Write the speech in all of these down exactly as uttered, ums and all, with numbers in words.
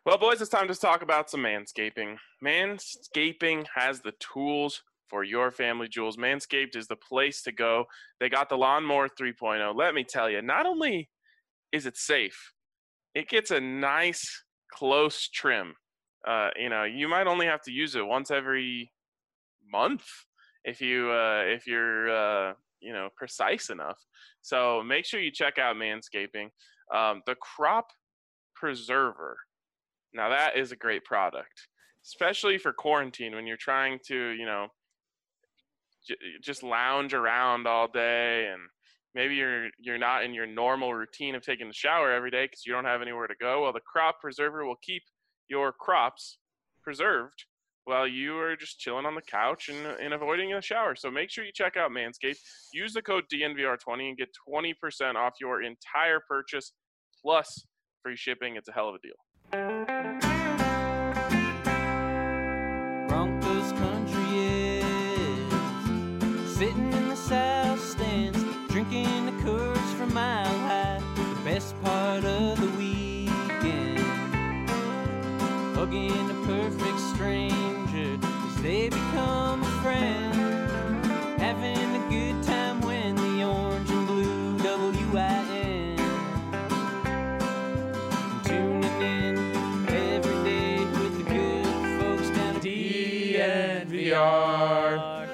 Well, boys, it's time to talk about some manscaping. Manscaping has the tools for your family jewels. Manscaped is the place to go. They got the Lawnmower three point oh. Let me tell you, not only is it safe, it gets a nice, close trim. Uh, you know, you might only have to use it once every month if you uh, if you're uh, you know precise enough. So make sure you check out Manscaping. Um, the Crop Preserver. Now that is a great product, especially for quarantine when you're trying to, you know, j- just lounge around all day, and maybe you're you're not in your normal routine of taking the shower every day because you don't have anywhere to go. Well, the Crop Preserver will keep your crops preserved while you are just chilling on the couch and, and avoiding a shower. So make sure you check out Manscaped. Use the code D N V R twenty and get twenty percent off your entire purchase plus free shipping. It's a hell of a deal. Broncos country is sitting in the south stands, drinking the Coors from Mile High. The best part of the weekend, hugging a perfect stranger as they become a friend, having a good time when the orange and blue W I N tuning in every day with the good folks down at D N V R.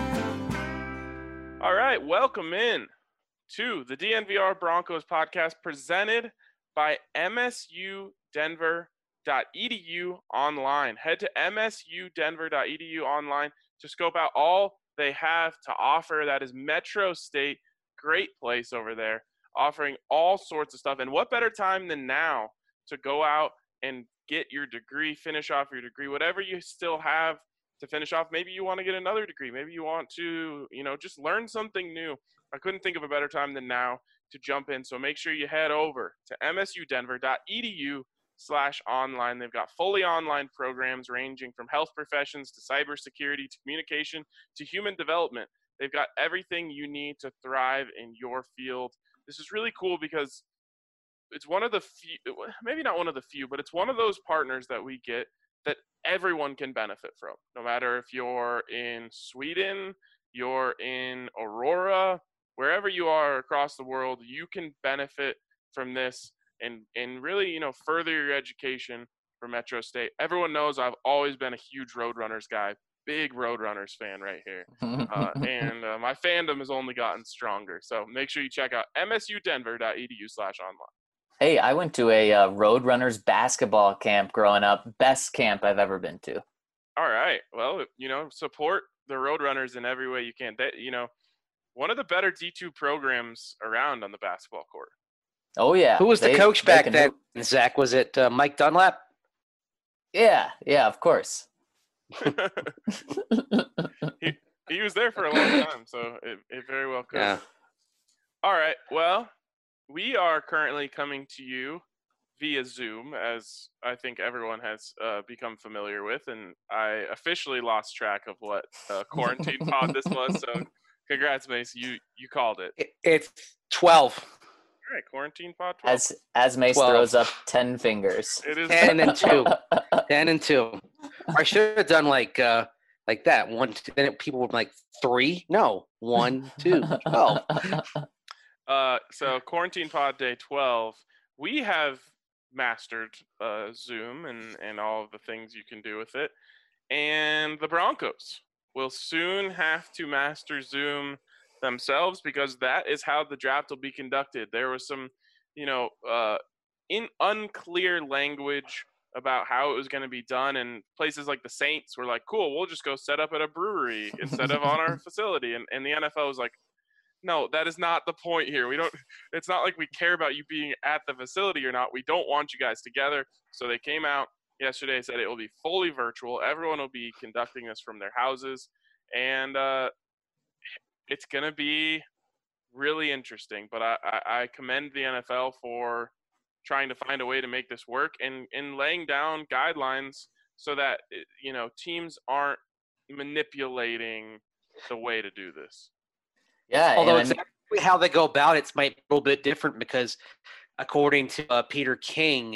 All right, welcome in to the D N V R Broncos podcast presented by M S U Denver dot E D U online. Head to M S U Denver dot E D U online to scope out all they have to offer. That is Metro State, great place over there, offering all sorts of stuff. And what better time than now to go out and get your degree, finish off your degree, whatever you still have to finish off. Maybe you want to get another degree. Maybe you want to, you know, just learn something new. I couldn't think of a better time than now to jump in. So make sure you head over to M S U Denver dot E D U slash online. They've got fully online programs ranging from health professions to cybersecurity to communication to human development. They've got everything you need to thrive in your field. This is really cool because it's one of the few, maybe not one of the few, but it's one of those partners that we get that everyone can benefit from. No matter if you're in Sweden, you're in Aurora, wherever you are across the world, you can benefit from this and, and really, you know, further your education for Metro State. Everyone knows I've always been a huge Roadrunners guy, big Roadrunners fan right here. Uh, and uh, my fandom has only gotten stronger. So make sure you check out M S U Denver dot E D U slash online. Hey, I went to a uh, Roadrunners basketball camp growing up. Best camp I've ever been to. All right. Well, you know, support the Roadrunners in every way you can. That, you know, one of the better D two programs around on the basketball court. Oh, yeah. Who was They- the coach they back can then, hoop. Zach? Was it uh, Mike Dunlap? Yeah, yeah, of course. he, he was there for a long time, so it, it very well could. Yeah. All right. Well, we are currently coming to you via Zoom, as I think everyone has uh, become familiar with, and I officially lost track of what uh, quarantine pod this was. So, congrats, Mace. You you called it. It, it's twelve. All right, quarantine pod twelve. As as Mace twelve. throws up ten fingers. It is ten and two. ten and two. I should have done like uh, like that. One, two, then it, people were like three. No, one, two, twelve. Uh, so quarantine pod day twelve, we have mastered uh, Zoom and, and all of the things you can do with it. And the Broncos will soon have to master Zoom themselves because that is how the draft will be conducted. There was some, you know, uh, in unclear language about how it was going to be done, and places like the Saints were like, cool, we'll just go set up at a brewery instead of on our facility. And, and the N F L was like, no, that is not the point here. We don't, it's not like we care about you being at the facility or not. We don't want you guys together. So they came out yesterday, said it will be fully virtual. Everyone will be conducting this from their houses. And uh, it's going to be really interesting. But I, I, I commend the N F L for trying to find a way to make this work and, and laying down guidelines so that, you know, teams aren't manipulating the way to do this. Yeah. Although and- exactly how they go about it might be a little bit different because according to uh, Peter King,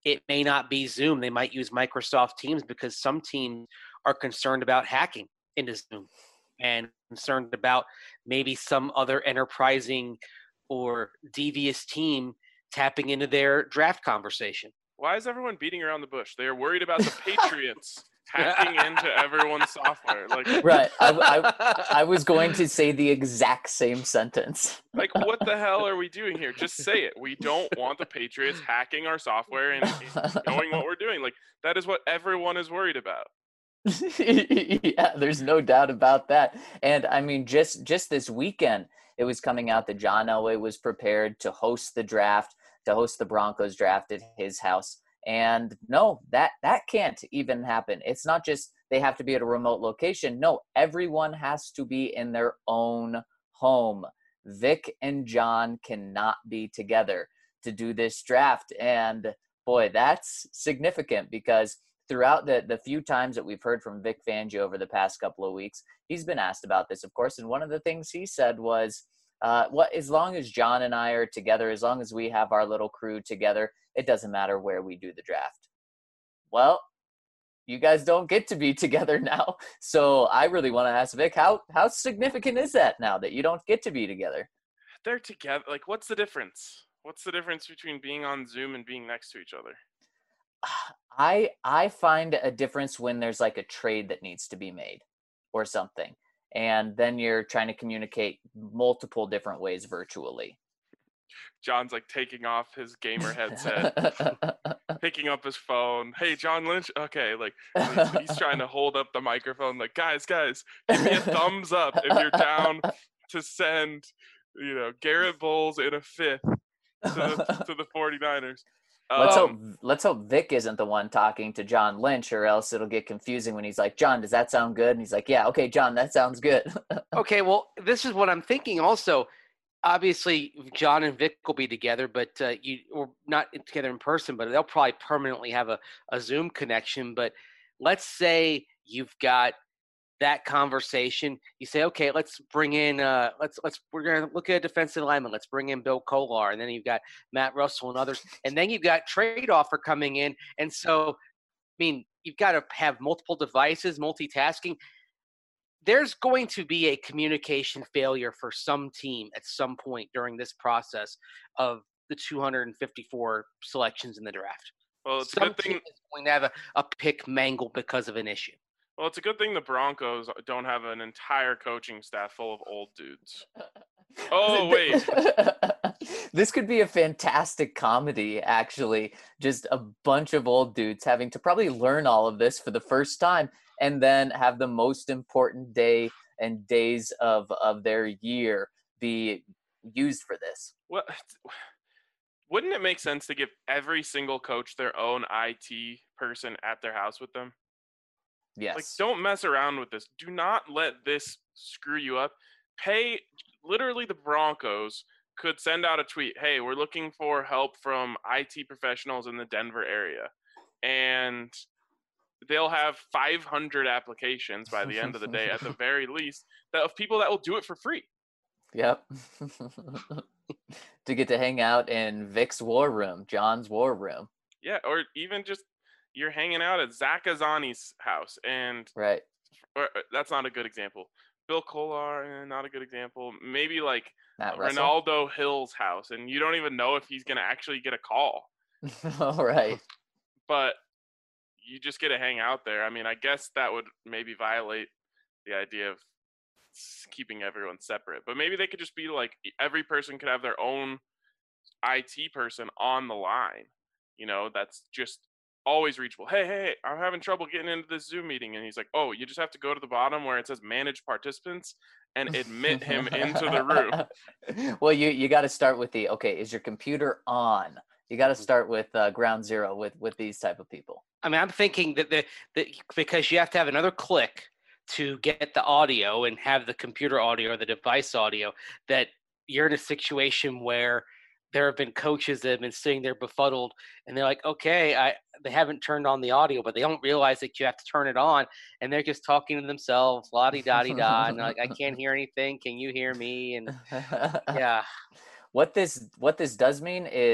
it may not be Zoom. They might use Microsoft Teams because some teams are concerned about hacking into Zoom and concerned about maybe some other enterprising or devious team tapping into their draft conversation. Why is everyone beating around the bush? They are worried about the Patriots hacking into everyone's software. Like, Right. I, I, I was going to say the exact same sentence. like, what the hell are we doing here? Just say it. We don't want the Patriots hacking our software and, and knowing what we're doing. Like, that is what everyone is worried about. Yeah, there's no doubt about that. And I mean, just just this weekend, it was coming out that John Elway was prepared to host the draft, to host the Broncos draft at his house. And no, that that can't even happen. It's not just they have to be at a remote location. No, everyone has to be in their own home. Vic and John cannot be together to do this draft. And boy, that's significant because throughout the, the few times that we've heard from Vic Fangio over the past couple of weeks, he's been asked about this, of course. And one of the things he said was, uh, what, as long as John and I are together, as long as we have our little crew together, it doesn't matter where we do the draft. Well, you guys don't get to be together now. So I really want to ask Vic, how, how significant is that now that you don't get to be together? They're together. Like, what's the difference? What's the difference between being on Zoom and being next to each other? I I find a difference when there's like a trade that needs to be made or something. And then you're trying to communicate multiple different ways virtually. John's like taking off his gamer headset, picking up his phone. Hey, John Lynch. Okay, like he's, he's trying to hold up the microphone. Like, guys, guys, give me a thumbs up if you're down to send, you know, Garrett Bowles in a fifth to the, to the 49ers. Let's um, hope let's hope Vic isn't the one talking to John Lynch, or else it'll get confusing when he's like, John, does that sound good? And he's like, yeah, okay, John, that sounds good. Okay, well, this is what I'm thinking also. Obviously, John and Vic will be together, but uh, you or not together in person, but they'll probably permanently have a, a Zoom connection. But let's say you've got that conversation. You say, okay, let's bring in, uh, let's let's we're gonna look at a defensive lineman. Let's bring in Bill Kolar, and then you've got Matt Russell and others, and then you've got trade offer coming in, and so, I mean, you've got to have multiple devices, multitasking. There's going to be a communication failure for some team at some point during this process of the two hundred fifty-four selections in the draft. Well, it's some a good thing. team is going to have a, a pick mangled because of an issue. Well, it's a good thing the Broncos don't have an entire coaching staff full of old dudes. Oh, wait. This could be a fantastic comedy, actually. Just a bunch of old dudes having to probably learn all of this for the first time and then have the most important day and days of, of their year be used for this. Well, wouldn't it make sense to give every single coach their own I T person at their house with them? Yes. Like, don't mess around with this. Do not let this screw you up. Pay, literally the Broncos could send out a tweet, hey, we're looking for help from I T professionals in the Denver area. And they'll have five hundred applications by the end of the day, at the very least, that of people that will do it for free. Yep. To get to hang out in Vic's war room, John's war room. Yeah, or even just you're hanging out at Zach Azani's house, and right. Or, that's not a good example. Bill Kolar, not a good example. Maybe like Matt Ronaldo Hill's house, and you don't even know if he's going to actually get a call. All right. But you just get to hang out there. I mean, I guess that would maybe violate the idea of keeping everyone separate. But maybe they could just be like, every person could have their own I T person on the line. You know, that's just always reachable. Hey, hey, hey, I'm having trouble getting into this Zoom meeting. And he's like, oh, you just have to go to the bottom where it says manage participants and admit him into the room. Well, you, you got to start with the, okay, is your computer on? You got to start with uh, ground zero with, with these type of people. I mean, I'm thinking that the, the because you have to have another click to get the audio and have the computer audio or the device audio, that you're in a situation where there have been coaches that have been sitting there befuddled, and they're like, okay, I they haven't turned on the audio, but they don't realize that you have to turn it on, and they're just talking to themselves, la-di-da-di-da, and they're like, I can't hear anything. Can you hear me? And yeah. What this what this does mean is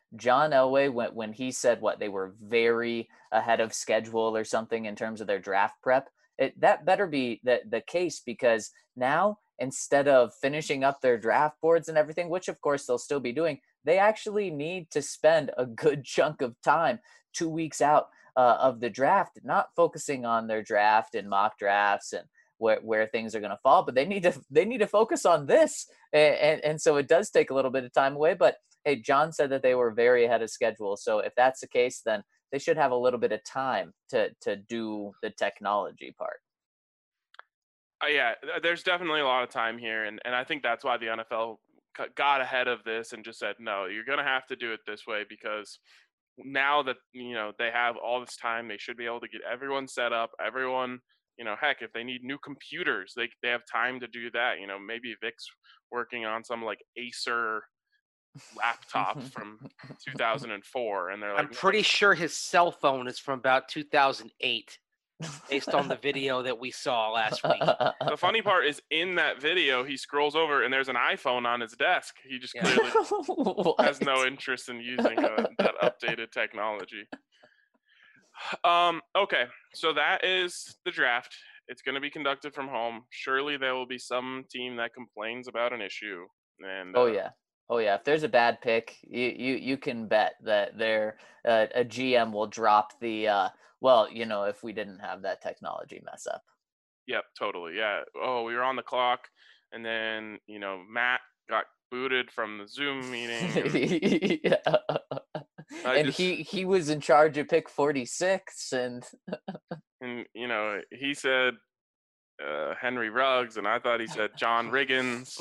John Elway, when, when he said what, they were very ahead of schedule or something in terms of their draft prep, it, that better be the, the case, because now instead of finishing up their draft boards and everything, which of course they'll still be doing, they actually need to spend a good chunk of time two weeks out uh, of the draft, not focusing on their draft and mock drafts and where, where things are going to fall, but they need to they need to focus on this. And, and, and so it does take a little bit of time away. But hey, John said that they were very ahead of schedule. So if that's the case, then they should have a little bit of time to to do the technology part. Uh, yeah, there's definitely a lot of time here, and, and I think that's why the N F L got ahead of this and just said, no, you're going to have to do it this way, because now that, you know, they have all this time, they should be able to get everyone set up, everyone, you know, heck, if they need new computers, they they have time to do that. You know, maybe Vic's working on some like Acer laptop from two thousand four, and they're like, I'm pretty no. sure his cell phone is from about two thousand eight, based on the video that we saw last week. The funny part is, in that video, he scrolls over and there's an iPhone on his desk. He just Yeah. clearly has no interest in using uh, that updated technology. Um, okay, so that is the draft. It's going to be conducted from home. Surely there will be some team that complains about an issue. And Oh uh, yeah. Oh yeah. If there's a bad pick, you you, you can bet that there uh, a G M will drop the uh, well, you know, if we didn't have that technology mess up. Yep, totally. Yeah. Oh, we were on the clock, and then, you know, Matt got booted from the Zoom meeting. Yeah. I And just- he he was in charge of pick forty-six, and And, you know, he said uh, Henry Ruggs, and I thought he said John Riggins,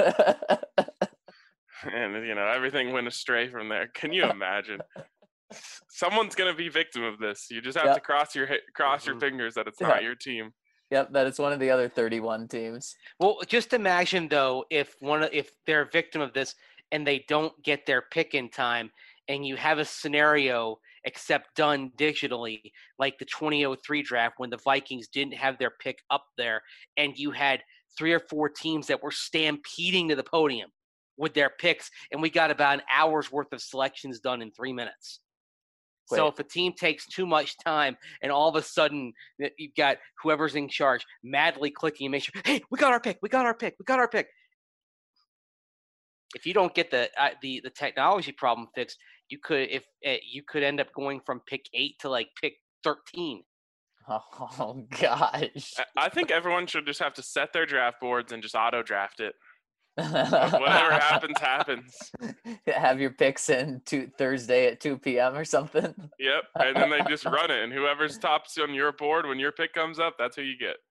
and, you know, everything went astray from there. Can you imagine? Someone's going to be victim of this. You just have Yep. to cross your hi- cross your Mhm. fingers that it's Yeah. not your team. Yep, that is one of the other thirty-one teams. Well, just imagine though, if one of- if they're a victim of this and they don't get their pick in time, and you have a scenario except done digitally, like the twenty oh three draft when the Vikings didn't have their pick up there, and you had three or four teams that were stampeding to the podium with their picks, and we got about an hour's worth of selections done in three minutes. So Wait. if a team takes too much time and all of a sudden that you've got whoever's in charge madly clicking and make sure, hey, we got our pick, we got our pick, we got our pick. If you don't get the uh, the the technology problem fixed, you could if uh, you could end up going from pick eight to like pick thirteen. Oh gosh. I- I think everyone should just have to set their draft boards and just auto draft it. Whatever happens, happens. Have your picks in two, Thursday at two p.m. or something. Yep, and then they just run it, and whoever's tops on your board when your pick comes up, that's who you get.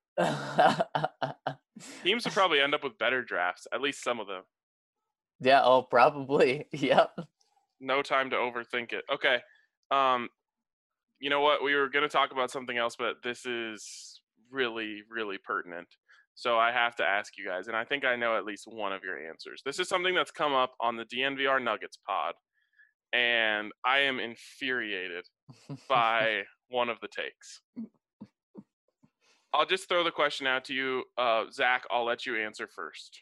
Teams would probably end up with better drafts, at least some of them. Yeah, oh, probably. Yep. No time to overthink it. Okay, um, you know what? We were going to talk about something else, but this is really, really pertinent. So I have to ask you guys, and I think I know at least one of your answers. This is something that's come up on the D N V R Nuggets pod, and I am infuriated by one of the takes. I'll just throw the question out to you. Uh, Zach, I'll let you answer first.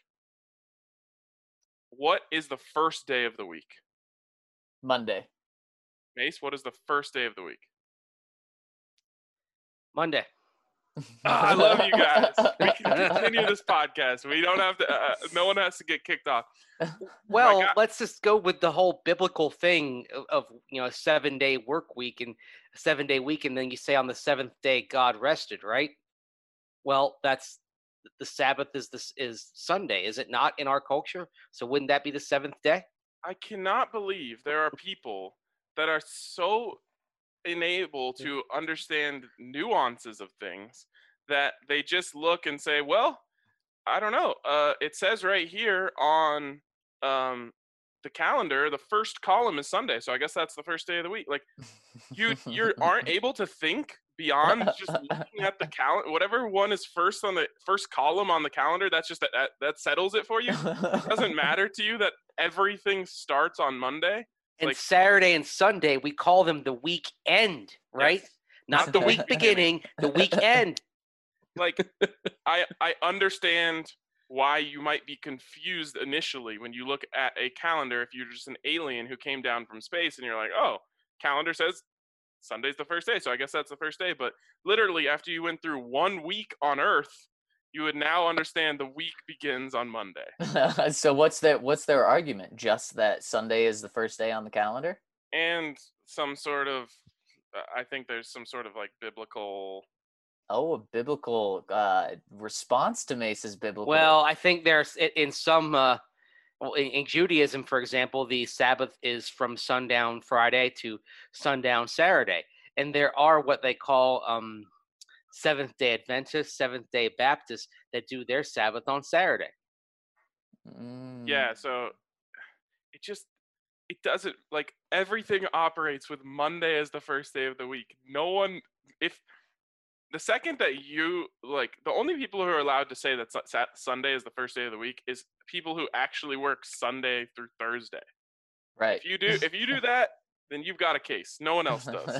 What is the first day of the week? Monday. Mace, what is the first day of the week? Monday. Ah, I love you guys. We can continue this podcast. We don't have to. Uh, no one has to get kicked off. Well, God. let's just go with the whole biblical thing of, of you know a seven day work week and a seven day week, and then you say on the seventh day God rested, right? Well, that's the Sabbath is this is Sunday, is it not in our culture? So wouldn't that be the seventh day? I cannot believe there are people that are so unable to understand nuances of things that they just look and say, well, I don't know. Uh, it says right here on um, the calendar, the first column is Sunday. So I guess that's the first day of the week. Like you, you aren't able to think beyond just looking at the calendar. Whatever one is first on the first column on the calendar, that's just that, that, that settles it for you. It doesn't matter to you that everything starts on Monday. And Like- Saturday and Sunday, we call them the weekend, right? Yes. Not the week beginning, the weekend. Like I I understand why you might be confused initially when you look at a calendar if you're just an alien who came down from space and you're like, oh, calendar says Sunday's the first day, so I guess that's the first day. But literally, after you went through one week on Earth, you would now understand the week begins on Monday. So what's their what's their argument? Just that Sunday is the first day on the calendar? And some sort of, uh, I think there's some sort of like biblical. Oh, a biblical uh, response to Mace's biblical. Well, I think there's in, in some uh, well, in, in Judaism, for example, the Sabbath is from sundown Friday to sundown Saturday, and there are what they call um, Seventh Day Adventists, Seventh Day Baptists that do their Sabbath on Saturday. Mm. Yeah, so it just it doesn't like everything operates with Monday as the first day of the week. No one, if the second that you like, the only people who are allowed to say that su- Sat- Sunday is the first day of the week is people who actually work Sunday through Thursday. Right. If you do, if you do that, then you've got a case. No one else does.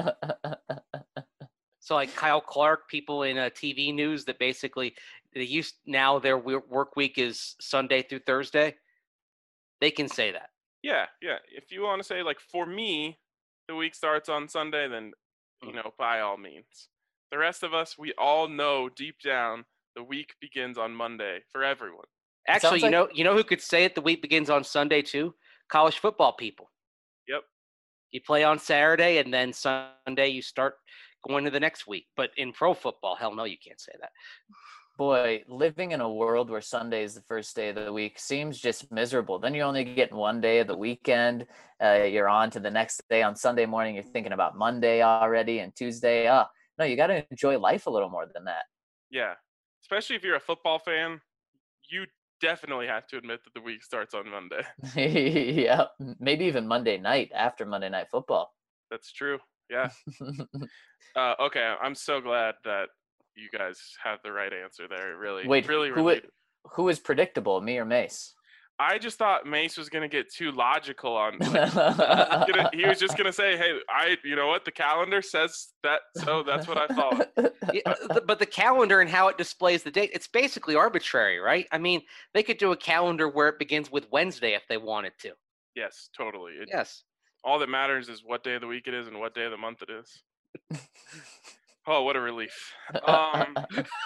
So like Kyle Clark, people in uh, T V news that basically they used now their wo- work week is Sunday through Thursday. They can say that. Yeah, yeah. If you want to say like for me, the week starts on Sunday, then you know by all means. The rest of us, we all know deep down the week begins on Monday for everyone. Actually, you like- know, you know who could say it? The week begins on Sunday too. College football people. Yep. You play on Saturday, and then Sunday you start going to the next week. But in pro football, hell no, you can't say that. Boy, living in a world where Sunday is the first day of the week seems just miserable. Then you're only getting one day of the weekend. Uh, you're on to the next day on Sunday morning. You're thinking about Monday already and Tuesday. Oh, no, you got to enjoy life a little more than that. Yeah, especially if you're a football fan, you definitely have to admit that the week starts on Monday. Yeah, maybe even Monday night after Monday Night Football. That's true. Yeah. uh, okay, I'm so glad that you guys have the right answer there. It really, Wait, really, who, really. who is predictable, me or Mace? I just thought Mace was gonna get too logical on. Like, gonna, he was just gonna say, "Hey, I, you know what? The calendar says that, so that's what I thought." Yeah, but the calendar and how it displays the date—it's basically arbitrary, right? I mean, they could do a calendar where it begins with Wednesday if they wanted to. Yes, totally. It, Yes. All that matters is what day of the week it is and what day of the month it is. Oh, what a relief. Um,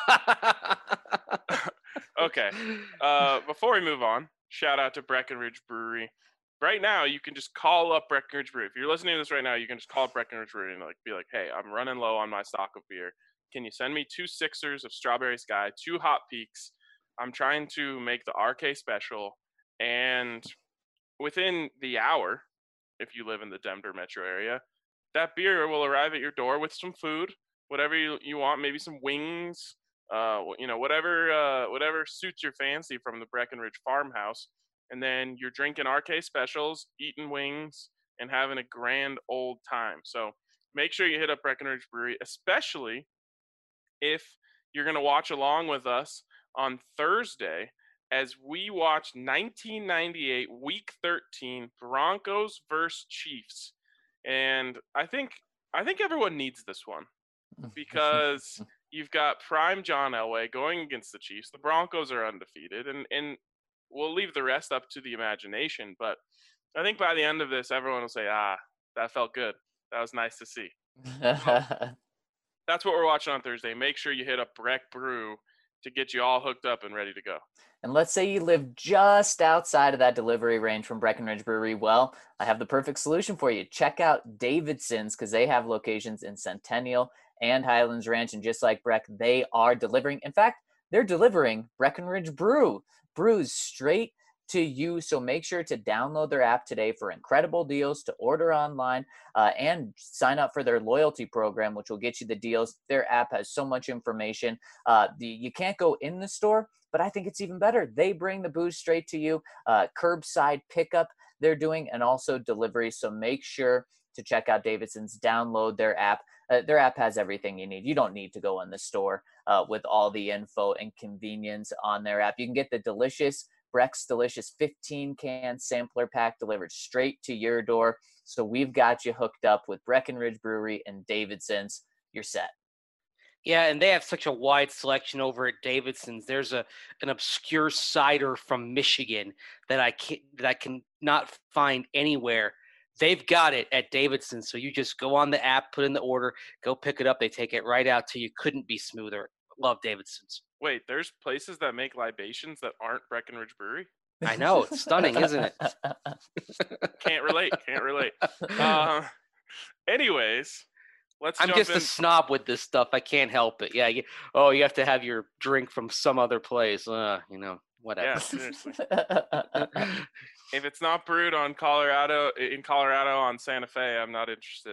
okay. Uh, before we move on, shout out to Breckenridge Brewery. Right now, you can just call up Breckenridge Brewery. If you're listening to this right now, you can just call up Breckenridge Brewery and like be like, "Hey, I'm running low on my stock of beer. Can you send me two Sixers of Strawberry Sky, two Hot Peaks? I'm trying to make the R K special." And within the hour, if you live in the Denver metro area, that beer will arrive at your door with some food, whatever you, you want, maybe some wings, uh, you know, whatever uh, whatever suits your fancy from the Breckenridge farmhouse. And then you're drinking R K specials, eating wings, and having a grand old time. So make sure you hit up Breckenridge Brewery, especially if you're going to watch along with us on Thursday as we watch nineteen ninety-eight Week thirteen Broncos versus Chiefs. And I think I think everyone needs this one because you've got prime John Elway going against the Chiefs. The Broncos are undefeated, and, and we'll leave the rest up to the imagination. But I think by the end of this, everyone will say, ah, that felt good. That was nice to see. So, that's what we're watching on Thursday. Make sure you hit up Breck Brew to get you all hooked up and ready to go. And let's say you live just outside of that delivery range from Breckenridge Brewery. Well, I have the perfect solution for you. Check out Davidson's because they have locations in Centennial and Highlands Ranch. And just like Breck, they are delivering. In fact, they're delivering Breckenridge Brew. Brews straight to you. So make sure to download their app today for incredible deals, to order online, uh, and sign up for their loyalty program, which will get you the deals. Their app has so much information. Uh, the, you can't go in the store, but I think it's even better. They bring the booze straight to you, uh, curbside pickup they're doing, and also delivery. So make sure to check out Davidson's, download their app. Uh, their app has everything you need. You don't need to go in the store uh, with all the info and convenience on their app. You can get the delicious Breck's Delicious fifteen can sampler pack delivered straight to your door. So we've got you hooked up with Breckenridge Brewery and Davidson's. You're set. Yeah, and they have such a wide selection over at Davidson's. There's a an obscure cider from Michigan that I can that I can not find anywhere. They've got it at Davidson's, so you just go on the app, put in the order, go pick it up. They take it right out to you. Couldn't be smoother. Love Davidson's. Wait, there's places that make libations that aren't Breckenridge Brewery? I know, it's stunning, isn't it? Can't relate. Can't relate. Uh, anyways, let's I'm jump just in. a snob with this stuff. I can't help it. Yeah. You, oh, you have to have your drink from some other place. Uh, you know, whatever. Yeah, seriously. If it's not brewed on Colorado in Colorado on Santa Fe, I'm not interested.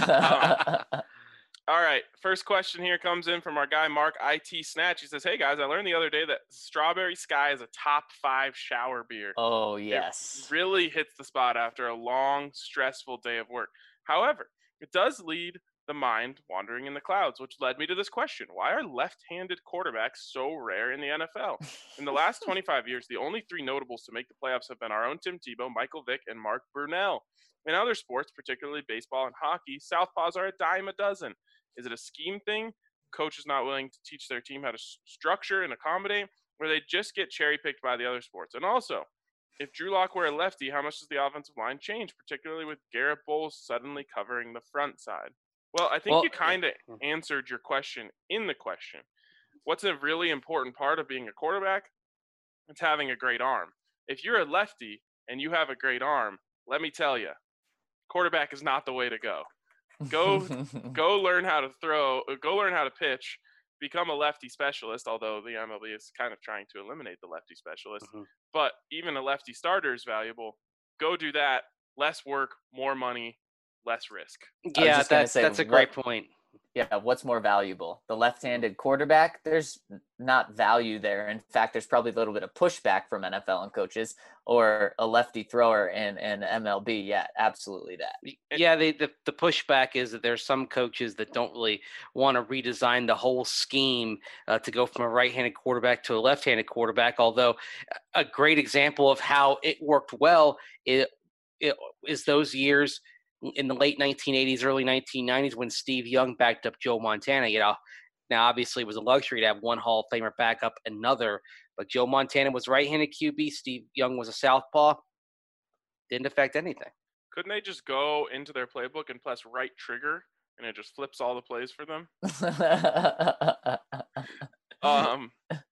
Um, all right, first question here comes in from our guy Mark I T Snatch. He says, "Hey guys, I learned the other day that Strawberry Sky is a top five shower beer. Oh, yes. It really hits the spot after a long, stressful day of work. However, it does lead the mind wandering in the clouds, which led me to this question. Why are left-handed quarterbacks so rare in the N F L? In the last twenty-five years, the only three notables to make the playoffs have been our own Tim Tebow, Michael Vick, and Mark Brunell. In other sports, particularly baseball and hockey, southpaws are a dime a dozen. Is it a scheme thing? Coaches not willing to teach their team how to s- structure and accommodate, or they just get cherry-picked by the other sports? And also, if Drew Lock were a lefty, how much does the offensive line change, particularly with Garrett Bowles suddenly covering the front side?" Well, I think Well, you kind of answered your question in the question. What's a really important part of being a quarterback? It's having a great arm. If you're a lefty and you have a great arm, let me tell you, quarterback is not the way to go. Go go learn how to throw, go learn how to pitch, become a lefty specialist, although the M L B is kind of trying to eliminate the lefty specialist. Mhm. But even a lefty starter is valuable. Go do that. Less work, more money, less risk. I was Yeah, just gonna that's say, that's a great what- point. Yeah, what's more valuable? The left-handed quarterback? There's not value there. In fact, there's probably a little bit of pushback from N F L and coaches, or a lefty thrower in, in M L B. Yeah, absolutely that. Yeah, the, the the pushback is that there's some coaches that don't really want to redesign the whole scheme uh, to go from a right-handed quarterback to a left-handed quarterback. Although a great example of how it worked well it, it is those years in the late nineteen eighties, early nineteen nineties when Steve Young backed up Joe Montana. You know, now obviously it was a luxury to have one Hall of Famer back up another, but Joe Montana was right-handed Q B. Steve Young was a southpaw. Didn't affect anything. Couldn't they just go into their playbook and press right trigger and it just flips all the plays for them? Um,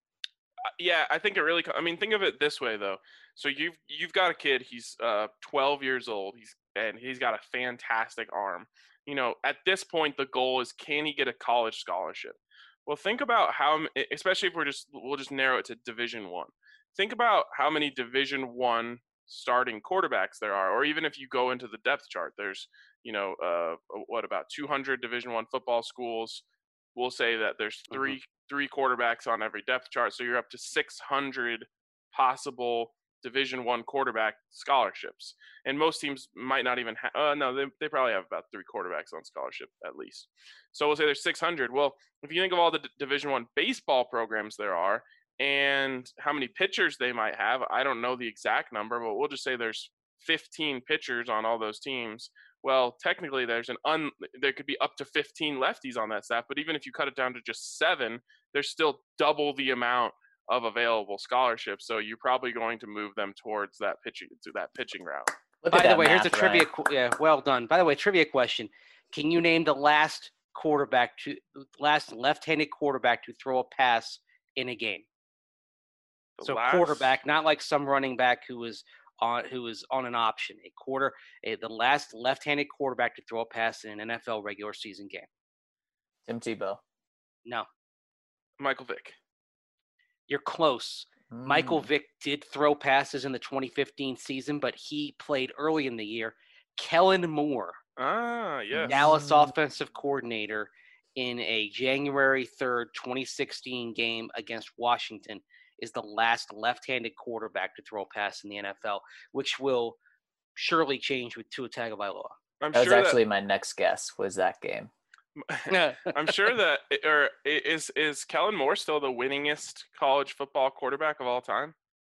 yeah, I think it really. I mean, think of it this way though. So you've you've got a kid. He's uh twelve years old. He's and he's got a fantastic arm. You know, at this point, the goal is can he get a college scholarship? Well, think about how, especially if we're just we'll just narrow it to Division One. Think about how many Division One starting quarterbacks there are, or even if you go into the depth chart, there's you know uh what about two hundred Division One football schools. We'll say that there's three mm-hmm. three quarterbacks on every depth chart, so you're up to six hundred possible Division One quarterback scholarships, and most teams might not even have. Uh, no, they they probably have about three quarterbacks on scholarship at least. So we'll say there's six hundred. Well, if you think of all the D- Division One baseball programs there are, and how many pitchers they might have, I don't know the exact number, but we'll just say there's fifteen pitchers on all those teams. Well, technically, there's an un. There could be up to fifteen lefties on that staff, but even if you cut it down to just seven, there's still double the amount of available scholarships. So you're probably going to move them towards that pitching to that pitching route. Look By at the that way, here's math, a trivia. Ryan. qu- Yeah, well done. By the way, trivia question: can you name the last quarterback to last left-handed quarterback to throw a pass in a game? The So last- quarterback, not like some running back who was on who was on an option. A quarter, a, the last left-handed quarterback to throw a pass in an N F L regular season game. Tim Tebow. No, Michael Vick. you're close. Michael Mm. Vick did throw passes in the twenty fifteen season, but he played early in the year. Kellen Moore, Ah, yes. Dallas Mm. offensive coordinator, in a January third, twenty sixteen game against Washington, is the last left-handed quarterback to throw a pass in the N F L, which will surely change with Tua Tagovailoa. I'm That was sure actually my next guess. Was that game? that I'm sure that or is is Kellen Moore still the winningest college football quarterback of all time?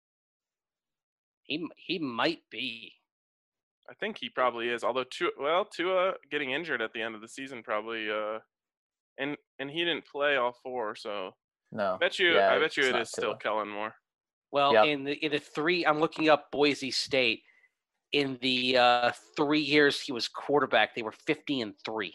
he he might be. I think he probably is. Although Tua, well, Tua getting injured at the end of the season probably uh and and he didn't play all four, so No. I bet you Yeah, I bet you it's it not is still Tua. Kellen Moore. Well, Yep. in the in the three, I'm looking up Boise State. In the uh, three years he was quarterback, they were fifty and three.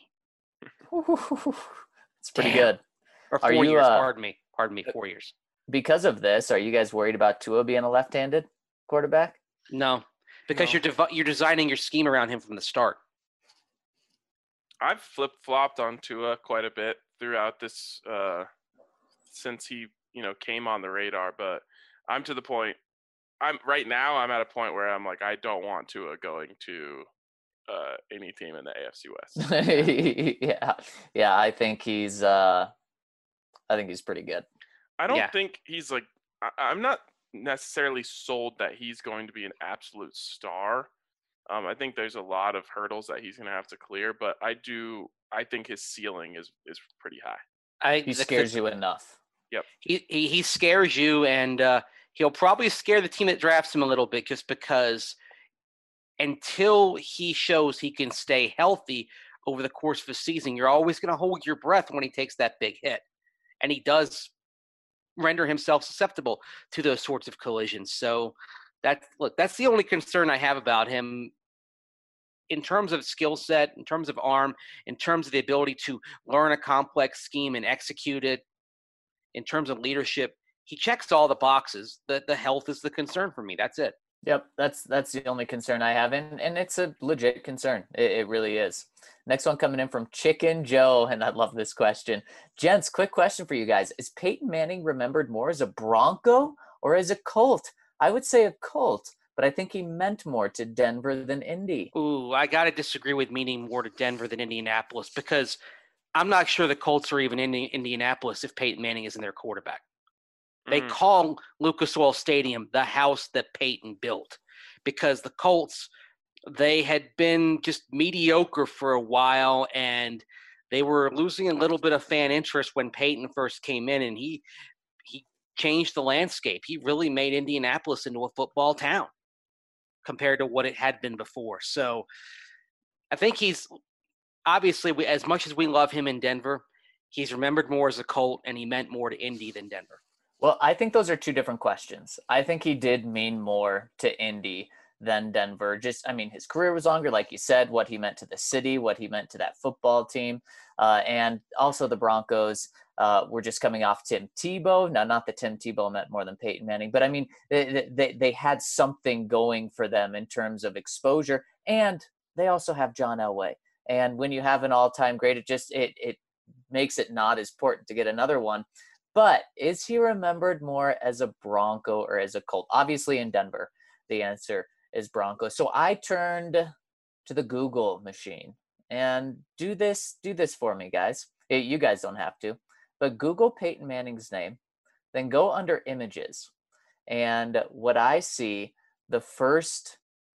It's pretty Damn. good. Or Are four you, years. uh, Pardon me. Pardon me. Four years. Because of this, are you guys worried about Tua being a left-handed quarterback? No, because No. you're dev- you're designing your scheme around him from the start. I've flip flopped on Tua quite a bit throughout this uh, since he you know came on the radar, but I'm to the point. I'm right now. I'm at a point where I'm like, I don't want Tua going to uh, any team in the A F C West. yeah, yeah. I think he's. Uh, I think he's pretty good. I don't Yeah. think he's like. I, I'm not necessarily sold that he's going to be an absolute star. Um, I think there's a lot of hurdles that he's going to have to clear, but I do. I think his ceiling is is pretty high. I He the- scares the- you enough. He, he he scares you, and uh, he'll probably scare the team that drafts him a little bit, just because until he shows he can stay healthy over the course of the season, you're always going to hold your breath when he takes that big hit, and he does render himself susceptible to those sorts of collisions. So that look, that's the only concern I have about him. In terms of skill set, in terms of arm, in terms of the ability to learn a complex scheme and execute it, in terms of leadership, he checks all the boxes. The the health is the concern for me. That's it. Yep, that's that's the only concern I have, and and it's a legit concern. It, it really is. Next one coming in from Chicken Joe, and I love this question. Gents, quick question for you guys: is Peyton Manning remembered more as a Bronco or as a Colt? I would say a Colt, but I think he meant more to Denver than Indy. Ooh, I got to disagree with meaning more to Denver than Indianapolis, because I'm not sure the Colts are even in Indianapolis if Peyton Manning isn't their quarterback. They Mm. call Lucas Oil Stadium the house that Peyton built, because the Colts, they had been just mediocre for a while, and they were losing a little bit of fan interest when Peyton first came in, and he he changed the landscape. He really made Indianapolis into a football town compared to what it had been before. So I think he's obviously, we, as much as we love him in Denver, he's remembered more as a Colt, and he meant more to Indy than Denver. Well, I think those are two different questions. I think he did mean more to Indy than Denver. Just, I mean, his career was longer, like you said, what he meant to the city, what he meant to that football team. Uh, and also the Broncos uh, were just coming off Tim Tebow. Now, not that Tim Tebow meant more than Peyton Manning, but I mean, they, they, they had something going for them in terms of exposure. And they also have John Elway. And when you have an all-time great, it just, it, it makes it not as important to get another one. But is he remembered more as a Bronco or as a Colt? Obviously in Denver, the answer is Bronco. So I turned to the Google machine and do this, do this for me, guys. You guys don't have to, but Google Peyton Manning's name, then go under images. And what I see, the first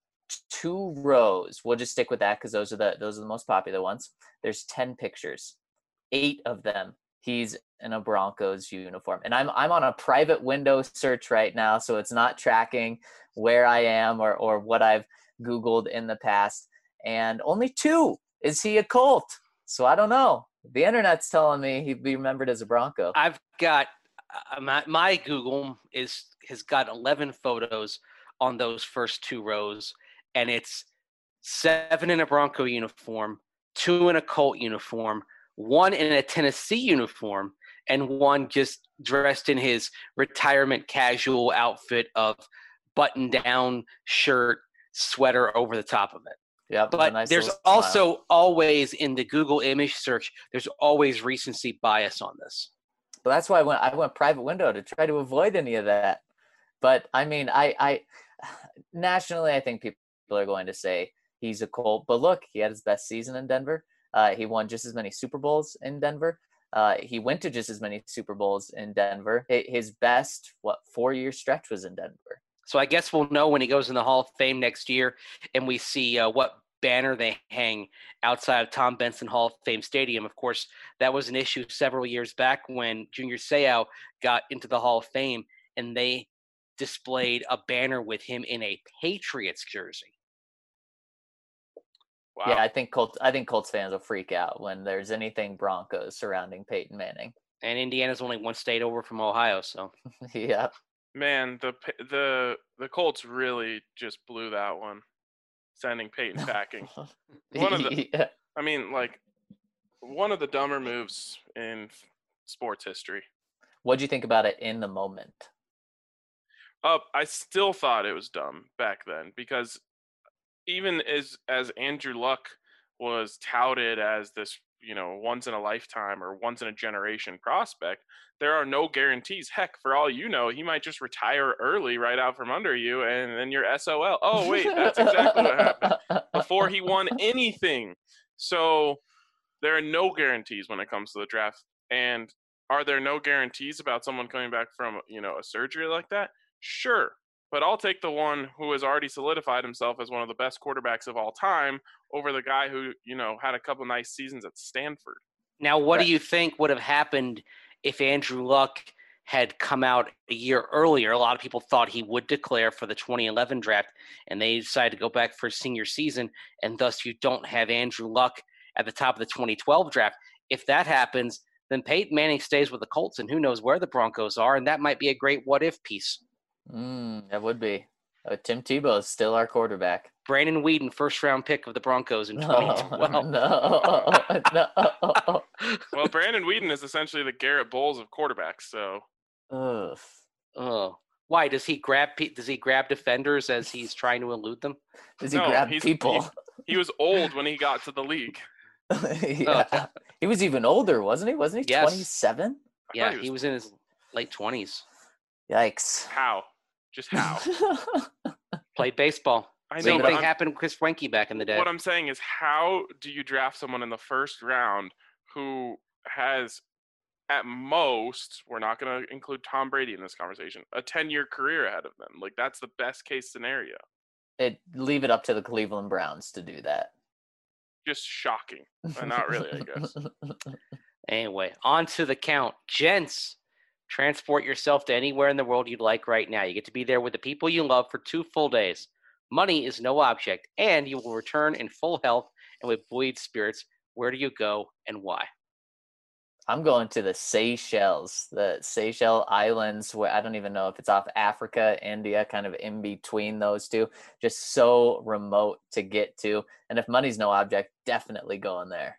two rows, we'll just stick with that because those are the those are the most popular ones. There's ten pictures, eight of them he's in a Broncos uniform. And I'm I'm on a private window search right now, so it's not tracking where I am or, or what I've Googled in the past. And only two, is he a Colt? So I don't know. The internet's telling me he'd be remembered as a Bronco. I've got uh, my, my Google is has got eleven photos on those first two rows, and it's seven in a Bronco uniform, two in a Colt uniform, one in a Tennessee uniform, and one just dressed in his retirement casual outfit of button-down shirt, sweater over the top of it. Yep, But nice there's little smile. also always, in the Google image search, there's always recency bias on this. But that's why I went I went private window to try to avoid any of that. But I mean, I, I nationally, I think people are going to say he's a Colt. But look, he had his best season in Denver. Uh, he won just as many Super Bowls in Denver. Uh, he went to just as many Super Bowls in Denver. His best, what, four-year stretch was in Denver. So I guess we'll know when he goes in the Hall of Fame next year, and we see uh, what banner they hang outside of Tom Benson Hall of Fame Stadium. Of course, that was an issue several years back when Junior Seau got into the Hall of Fame, and they displayed a banner with him in a Patriots jersey. Wow. Yeah, I think Colts. I think Colts fans will freak out when there's anything Broncos surrounding Peyton Manning. And Indiana's only one state over from Ohio, so Yeah. Man, the the the Colts really just blew that one, sending Peyton packing. One of the, yeah. I mean, like, one of the dumber moves in sports history. What'd you think about it in the moment? Uh, I still thought it was dumb back then because even as as Andrew Luck was touted as this, you know, once in a lifetime or once in a generation prospect, there are no guarantees. Heck, for all you know, he might just retire early right out from under you, and then you're S O L. Oh, wait, that's exactly what happened before he won anything. So there are no guarantees when it comes to the draft. And are there no guarantees about someone coming back from, you know, a surgery like that? Sure. But I'll take the one who has already solidified himself as one of the best quarterbacks of all time over the guy who, you know, had a couple nice seasons at Stanford. Now, what Right. do you think would have happened if Andrew Luck had come out a year earlier? A lot of people thought he would declare for the twenty eleven draft, and they decided to go back for his senior season, and thus you don't have Andrew Luck at the top of the twenty twelve draft. If that happens, then Peyton Manning stays with the Colts, and who knows where the Broncos are, and that might be a great what-if piece. Mm, that would be. Uh, Tim Tebow is still our quarterback. Brandon Weeden, first-round pick of the Broncos in twenty twelve. No, no, no. Well, Brandon Weeden is essentially the Garrett Bowles of quarterbacks, so Ugh. Oh, why does he grab? pe- Does he grab defenders as he's trying to elude them? Does he No, grab he's- people? he was old when he got to the league. yeah. He was even older, wasn't he? Wasn't he Yes. twenty-seven? I Yeah, thought he was in his late twenties. Yikes. How? Just how? Played baseball. I know, Same but thing I'm- happened with Chris Wenke back in the day. What I'm saying is, how do you draft someone in the first round who has, at most, we're not going to include Tom Brady in this conversation, a ten-year career ahead of them? Like, that's the best case scenario. It leave it up to the Cleveland Browns to do that. Just shocking. Uh, not really, I guess. Anyway, on to the count. Gents, transport yourself to anywhere in the world you'd like right now. You get to be there with the people you love for two full days. Money is no object, and you will return in full health and with buoyed spirits. Where do you go and why? I'm going to the Seychelles, the Seychelles Islands, where I don't even know if it's off Africa, India, kind of in between those two. Just so remote to get to. And if money's no object, definitely going there.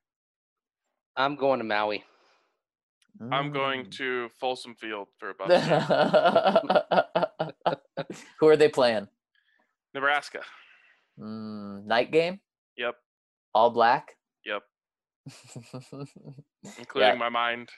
I'm going to Maui. I'm going Mm. to Folsom Field for about Who are they playing? Nebraska. Mm, night game? Yep, All black? yep. Including Yeah. my mind.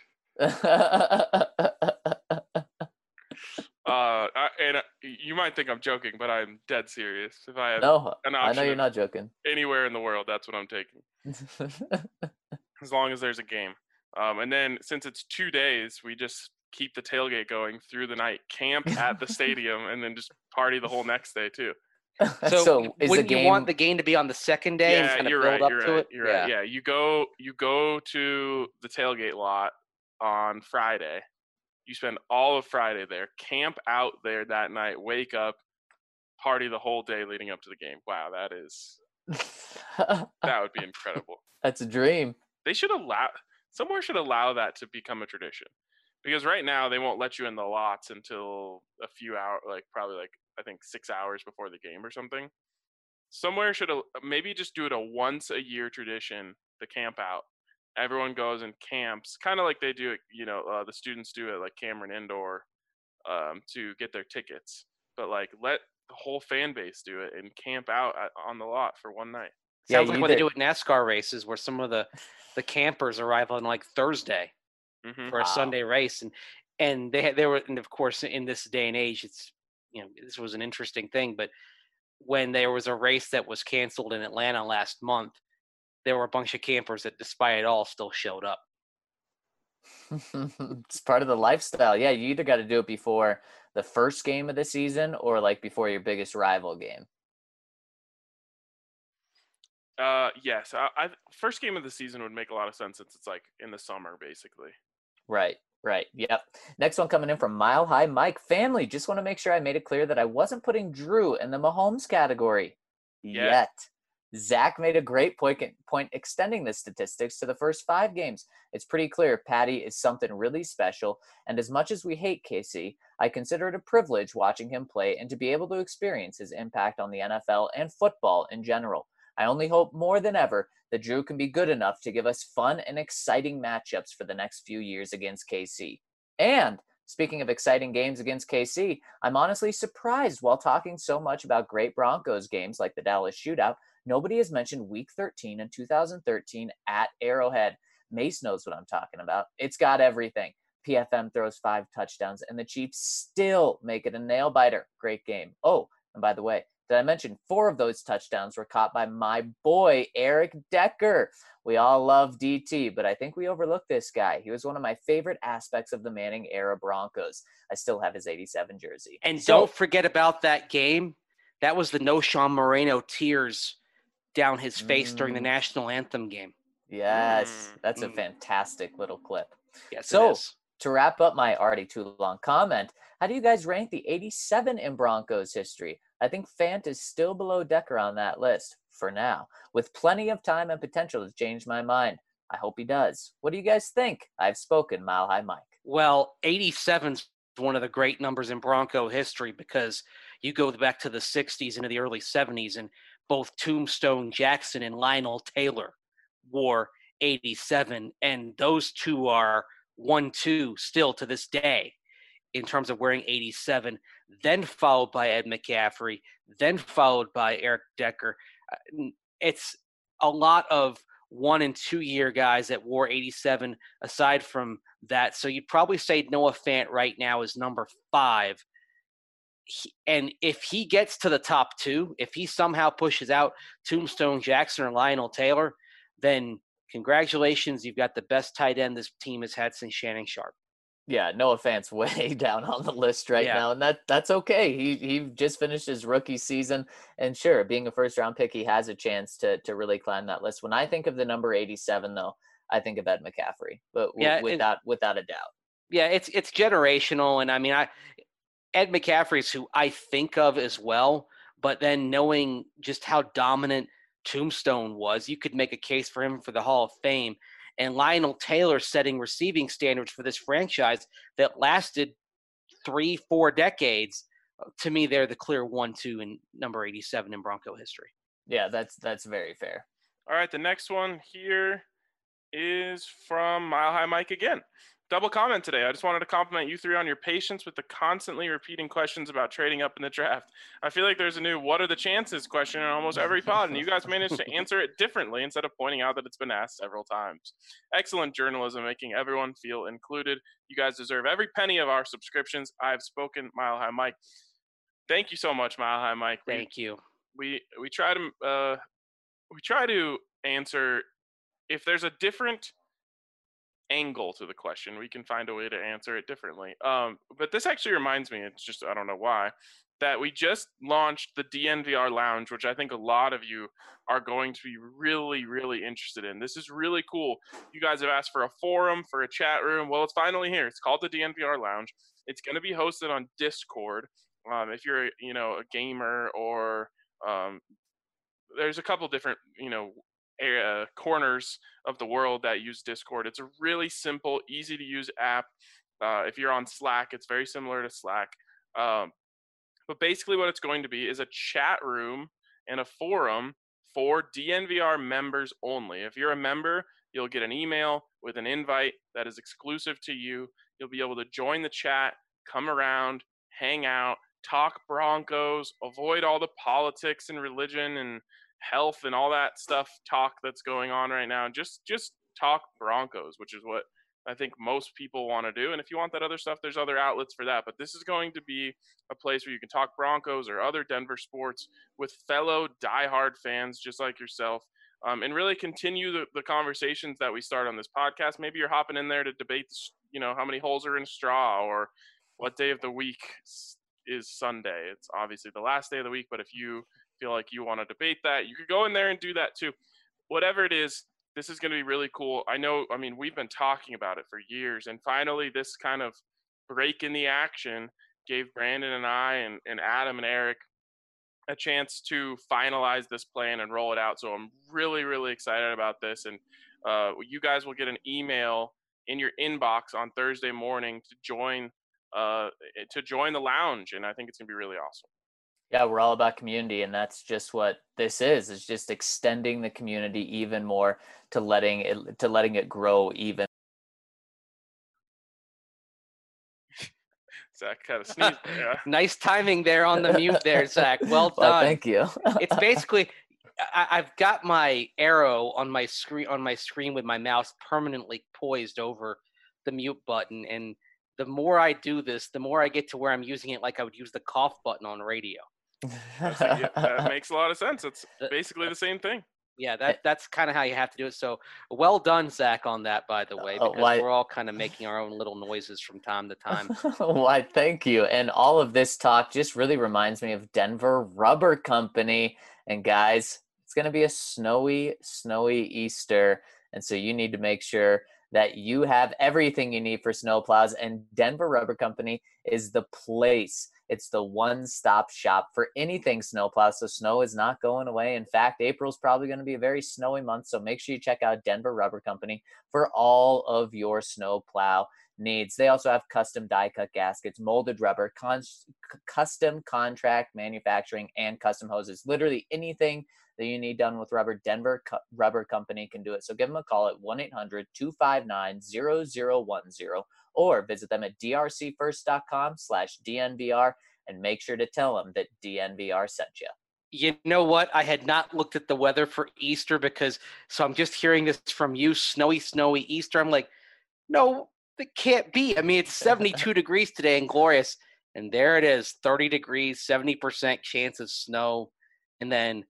Uh, I, and uh, you might think I'm joking, but I'm dead serious. If I have no, an I know option you're of not joking. anywhere in the world, that's what I'm taking. As long as there's a game. Um, and then since it's two days, we just keep the tailgate going through the night, camp at the stadium, and then just party the whole next day too. So, so is the wouldn't game? you want the game to be on the second day and Yeah, kind of you're build right. up You're to right. it? You're right. Yeah, you go you go to the tailgate lot on Friday. You spend all of Friday there, camp out there that night, wake up, party the whole day leading up to the game. Wow, that is that would be incredible. That's a dream. They should allow somewhere should allow that to become a tradition. Because right now they won't let you in the lots until a few hours, like probably like I think six hours before the game or something. Somewhere should al- maybe just do it a once a year tradition, the camp out. Everyone goes and camps, kind of like they do it, you know, uh, the students do it like Cameron Indoor um, to get their tickets. But like let the whole fan base do it and camp out at, on the lot for one night. Yeah, Sounds like what they either- do at NASCAR races, where some of the the campers arrive on like Thursday hmm for a Wow. Sunday race, and and they had they were, and of course, in this day and age, it's you know this was an interesting thing, but when there was a race that was canceled in Atlanta last month, there were a bunch of campers that, despite it all, still showed up. It's part of the lifestyle. Yeah, you either got to do it before the first game of the season or like before your biggest rival game. Uh, yes, I, I first game of the season would make a lot of sense since it's like in the summer basically. Right, right. Yep. Next one coming in from Mile High Mike. Family, just want to make sure I made it clear that I wasn't putting Drew in the Mahomes category Yeah. yet. Zach made a great point, point extending the statistics to the first five games. It's pretty clear Patty is something really special, and as much as we hate K C, I consider it a privilege watching him play and to be able to experience his impact on the N F L and football in general. I only hope more than ever that Drew can be good enough to give us fun and exciting matchups for the next few years against K C. And speaking of exciting games against K C, I'm honestly surprised while talking so much about great Broncos games like the Dallas Shootout, nobody has mentioned Week thirteen in two thousand thirteen at Arrowhead. Mace knows what I'm talking about. It's got everything. P F M throws five touchdowns, and the Chiefs still make it a nail-biter. Great game. Oh, and by the way, did I mention four of those touchdowns were caught by my boy, Eric Decker? We all love D T, but I think we overlooked this guy. He was one of my favorite aspects of the Manning-era Broncos. I still have his eighty-seven jersey. And So- don't forget about that game. That was the No Sean Moreno tears down his face during the Mm. national anthem game. Yes, Mm, that's a mm. fantastic little clip. Yes, So- it is. To wrap up my already too long comment, how do you guys rank the eighty-seven in Broncos history? I think Fant is still below Decker on that list for now, with plenty of time and potential to change my mind. I hope he does. What do you guys think? I've spoken, Mile High Mike. Well, eighty-seven's one of the great numbers in Bronco history because you go back to the sixties into the early seventies, and both Tombstone Jackson and Lionel Taylor wore eighty-seven, and those two are one two still to this day in terms of wearing eighty-seven, then followed by Ed McCaffrey, then followed by Eric Decker. Uh, It's a lot of one and two year guys that wore eighty-seven aside from that. So you'd probably say Noah Fant right now is number five. He, and if he gets to the top two, if he somehow pushes out Tombstone Jackson or Lionel Taylor, then congratulations, you've got the best tight end this team has had since Shannon Sharp. Yeah, Noah Fant's way down on the list right Yeah. now, and that that's okay. He he just finished his rookie season, and sure, being a first round pick, he has a chance to to really climb that list. When I think of the number eighty-seven, though, I think of Ed McCaffrey, but w- Yeah, it- without without a doubt. Yeah, it's it's generational, and I mean, I Ed McCaffrey's who I think of as well. But then knowing just how dominant Tombstone was, you could make a case for him for the Hall of Fame. And Lionel Taylor setting receiving standards for this franchise that lasted three, four decades. To me, they're the clear one, two, and number eighty-seven in Bronco history. Yeah, that's that's very fair. All right, the next one here is from Mile High Mike again. Double comment today. I just wanted to compliment you three on your patience with the constantly repeating questions about trading up in the draft. I feel like there's a new "what are the chances" question in almost every pod, and you guys managed to answer it differently instead of pointing out that it's been asked several times. Excellent journalism, making everyone feel included. You guys deserve every penny of our subscriptions. I've spoken, Mile High Mike. Thank you so much, Mile High Mike. We- Thank you. we we try to uh, we try to answer if there's a different angle to the question, we can find a way to answer it differently. Um, but this actually reminds me, it's just I don't know why, that we just launched the D N V R Lounge, which I think a lot of you are going to be really, really interested in. This is really cool. You guys have asked for a forum, for a chat room. Well, it's finally here. It's called the D N V R Lounge. It's going to be hosted on Discord. Um, if you're, you know, a gamer or um, there's a couple different, you know, area, corners of the world that use Discord. It's a really simple, easy to use app. Uh, if you're on Slack, it's very similar to Slack. Um, but basically what it's going to be is a chat room and a forum for D N V R members only. If you're a member, you'll get an email with an invite that is exclusive to you. You'll be able to join the chat, come around, hang out, talk Broncos, avoid all the politics and religion and health and all that stuff talk that's going on right now. Just just talk Broncos, which is what I think most people want to do. And if you want that other stuff, there's other outlets for that. But this is going to be a place where you can talk Broncos or other Denver sports with fellow diehard fans just like yourself, um, and really continue the, the conversations that we start on this podcast. Maybe you're hopping in there to debate, you know, how many holes are in a straw or what day of the week is Sunday. It's obviously the last day of the week, but if you feel like you want to debate that, you could go in there and do that too. Whatever it is, this is going to be really cool. I know, I mean, we've been talking about it for years, and finally this kind of break in the action gave Brandon and I and, and Adam and Eric a chance to finalize this plan and roll it out. So I'm really, really excited about this. And uh, you guys will get an email in your inbox on Thursday morning to join uh, to join the lounge. And I think it's gonna be really awesome. Yeah, we're all about community, and that's just what this is. It's just extending the community even more to letting it to letting it grow even. Zach kind of sneezed. Yeah. Nice timing there on the mute there, Zach. Well Well, done. thank you. It's basically I, I've got my arrow on my screen on my screen with my mouse permanently poised over the mute button, and the more I do this, the more I get to where I'm using it like I would use the cough button on radio. That's a, yeah, that makes a lot of sense. It's basically the same thing. Yeah, that that's kind of how you have to do it. So well done, Zach, on that, by the way, Uh, because why- we're all kind of making our own little noises from time to time. Why, thank you. And all of this talk just really reminds me of Denver Rubber Company. And guys, it's going to be a snowy, snowy Easter. And so you need to make sure that you have everything you need for snowplows. And Denver Rubber Company is the place. It's the one-stop shop for anything snowplow. So snow is not going away. In fact, April's probably going to be a very snowy month. So make sure you check out Denver Rubber Company for all of your snowplow needs. They also have custom die-cut gaskets, molded rubber, con- custom contract manufacturing, and custom hoses. Literally anything that you need done with rubber, Denver Co- Rubber Company can do it. So give them a call at one eight hundred two five nine zero zero one zero or visit them at drcfirst.com slash DNVR and make sure to tell them that D N V R sent you. You know what? I had not looked at the weather for Easter because, so I'm just hearing this from you, snowy, snowy Easter. I'm like, no, it can't be. I mean, it's seventy-two degrees today and glorious. And there it is, thirty degrees, seventy percent chance of snow. And then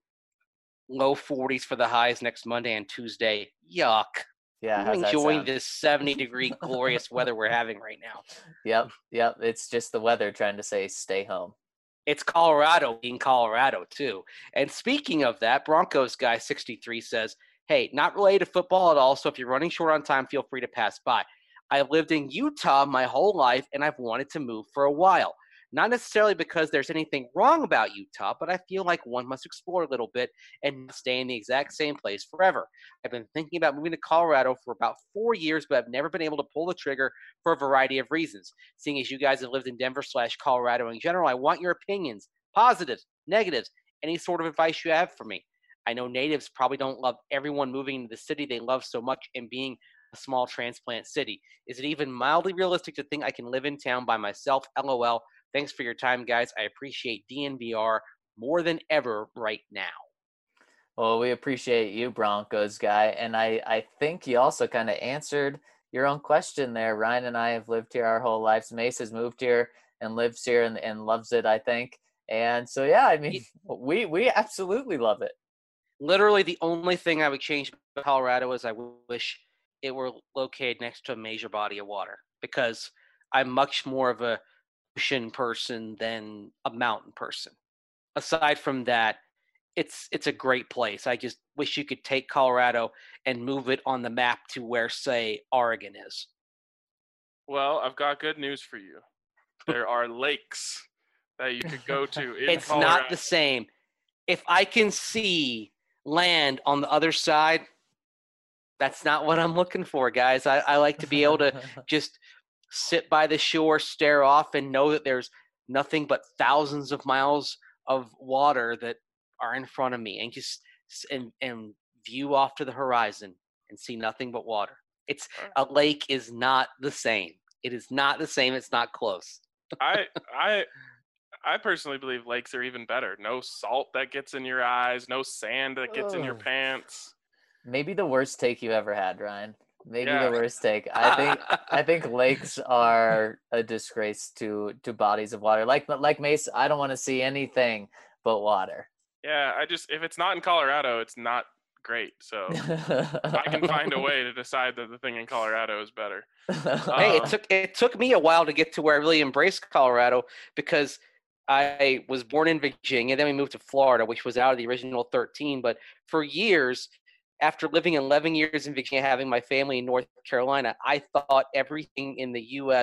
low forties for the highs next Monday and Tuesday. Yuck. Yeah, I'm how's that enjoying sound? this seventy degree glorious weather we're having right now. Yep, yep. It's just the weather trying to say stay home. It's Colorado being Colorado, too. And speaking of that, Broncos guy sixty-three says, hey, not related to football at all, so if you're running short on time, feel free to pass by. I've lived in Utah my whole life, and I've wanted to move for a while. Not necessarily because there's anything wrong about Utah, but I feel like one must explore a little bit and not stay in the exact same place forever. I've been thinking about moving to Colorado for about four years, but I've never been able to pull the trigger for a variety of reasons. Seeing as you guys have lived in Denver slash Colorado in general, I want your opinions, positives, negatives, any sort of advice you have for me. I know natives probably don't love everyone moving into the city they love so much and being a small transplant city. Is it even mildly realistic to think I can live in town by myself? LOL. Thanks for your time, guys. I appreciate D N V R more than ever right now. Well, we appreciate you, Broncos guy. And I, I think you also kind of answered your own question there. Ryan and I have lived here our whole lives. Mace has moved here and lives here and, and loves it, I think. And so, yeah, I mean, we, we absolutely love it. Literally the only thing I would change about Colorado is I wish it were located next to a major body of water, because I'm much more of a ocean person than a mountain person. Aside from that, it's it's a great place. I just wish you could take Colorado and move it on the map to where, say, Oregon is. Well, I've got good news for you. There are lakes that you could go to in It's Colorado. not the same. If I can see land on the other side, that's not what I'm looking for, guys. I, I like to be able to just sit by the shore, stare off, and know that there's nothing but thousands of miles of water that are in front of me, and just and, and view off to the horizon and see nothing but water. It's a lake is not the same. It is not the same. It's not close. I I I personally believe lakes are even better. No salt that gets in your eyes, no sand that gets in your Ugh. pants. Maybe the worst take you ever had, Ryan. Maybe Yeah. the worst take. I think I think lakes are a disgrace to to bodies of water. Like like Mace, I don't want to see anything but water. Yeah, I just if it's not in Colorado, it's not great. So I can find a way to decide that the thing in Colorado is better. Hey, it Um, took it took me a while to get to where I really embraced Colorado, because I was born in Virginia, then we moved to Florida, which was out of the original thirteen. But for years, after living eleven years in Virginia, having my family in North Carolina, I thought everything in the U S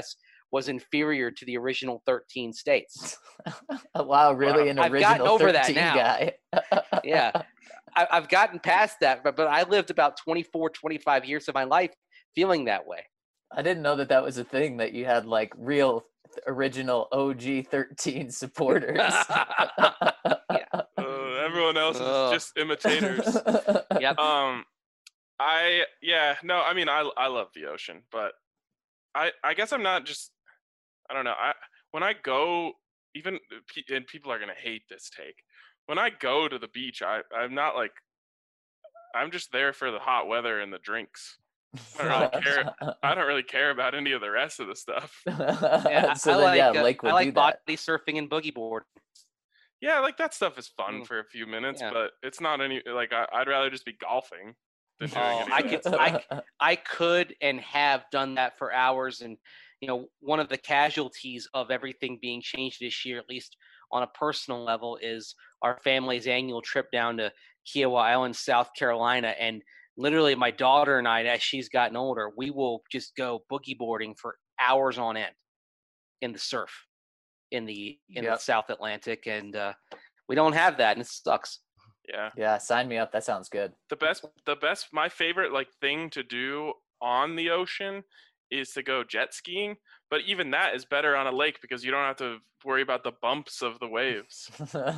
was inferior to the original thirteen states. Wow, really an I've original gotten over that thirteen now. guy. Yeah, I, I've gotten past that, but, but I lived about twenty-four, twenty-five years of my life feeling that way. I didn't know that that was a thing, that you had like real original O G thirteen supporters. Yeah. Uh, everyone else is Ugh. just imitators. Yep. Um, I yeah no, I mean I I love the ocean, but I I guess I'm not just I don't know. I when I go, even pe- and people are gonna hate this take. When I go to the beach, I I'm not like I'm just there for the hot weather and the drinks. I don't really care. I don't really care about any of the rest of the stuff. Yeah, I, so I then, like yeah, uh, Lake would I like do body that. surfing and boogie board. Yeah, like that stuff is fun Mm. for a few minutes, Yeah. but it's not any like I, I'd rather just be golfing than doing Oh, any I of could- that stuff. I I could and have done that for hours. And, you know, one of the casualties of everything being changed this year, at least on a personal level, is our family's annual trip down to Kiowa Island, South Carolina. And literally my daughter and I, as she's gotten older, we will just go boogie boarding for hours on end in the surf in the in Yep. the South Atlantic. And uh, we don't have that, and it sucks. Yeah. Yeah, sign me up. That sounds good. The best the best my favorite like thing to do on the ocean is to go jet skiing, but even that is better on a lake because you don't have to worry about the bumps of the waves.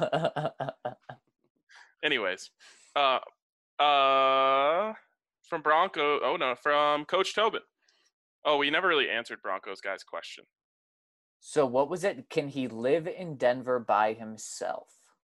Anyways, uh uh from Bronco, oh no, from Coach Tobin. Oh, we never really answered Broncos guy's question. So what was it? Can he live in Denver by himself?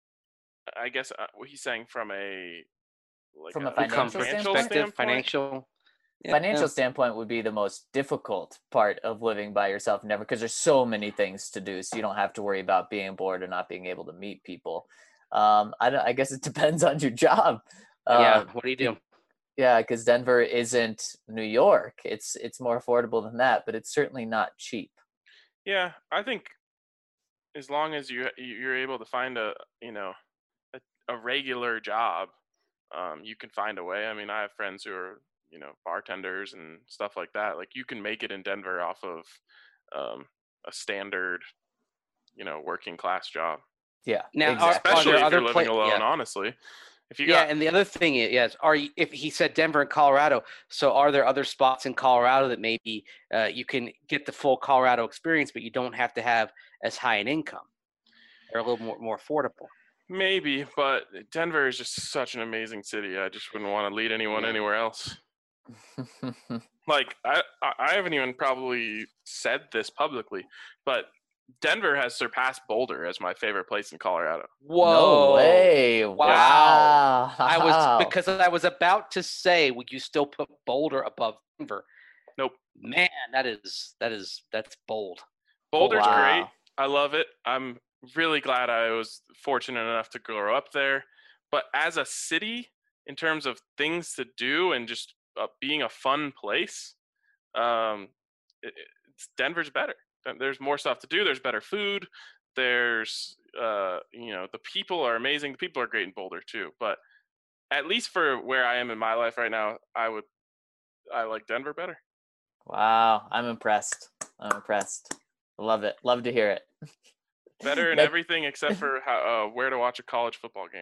I guess uh, what he's saying from a like From a a financial Comfort standpoint? perspective, financial. Yeah, Financial yeah. standpoint would be the most difficult part of living by yourself in Denver, because there's so many things to do. So you don't have to worry about being bored or not being able to meet people. Um, I, don't, I guess it depends on your job. Yeah, Uh, what do you do? Yeah, because Denver isn't New York. It's it's more affordable than that, but it's certainly not cheap. Yeah, I think as long as you you're able to find a you know a, a regular job, um, you can find a way. I mean, I have friends who are you know bartenders and stuff like that. Like you can make it in Denver off of um, a standard, you know, working class job. Yeah, Now, are- exactly. Especially there if other you're living pla- alone. yeah. Honestly, if you Yeah, got and the other thing is, yes, are you, if he said Denver and Colorado, so are there other spots in Colorado that maybe uh, you can get the full Colorado experience, but you don't have to have as high an income? They're a little more more affordable. maybe, but Denver is just such an amazing city. I just wouldn't want to lead anyone Yeah. anywhere else. Like I, I I haven't even probably said this publicly, but Denver has surpassed Boulder as my favorite place in Colorado. Whoa! No way! Wow! I was because I was about to say, would you still put Boulder above Denver? Nope. Man, that is that is that's bold. Boulder's wow. great. I love it. I'm really glad I was fortunate enough to grow up there. But as a city, in terms of things to do and just uh, being a fun place, um, it, it's, Denver's better. There's more stuff to do. There's better food. There's, uh, you know, the people are amazing. The people are great in Boulder too. But at least for where I am in my life right now, I would, I like Denver better. Wow! I'm impressed. I'm impressed. Love it. Love to hear it. Better in That- everything except for how, uh, where to watch a college football game.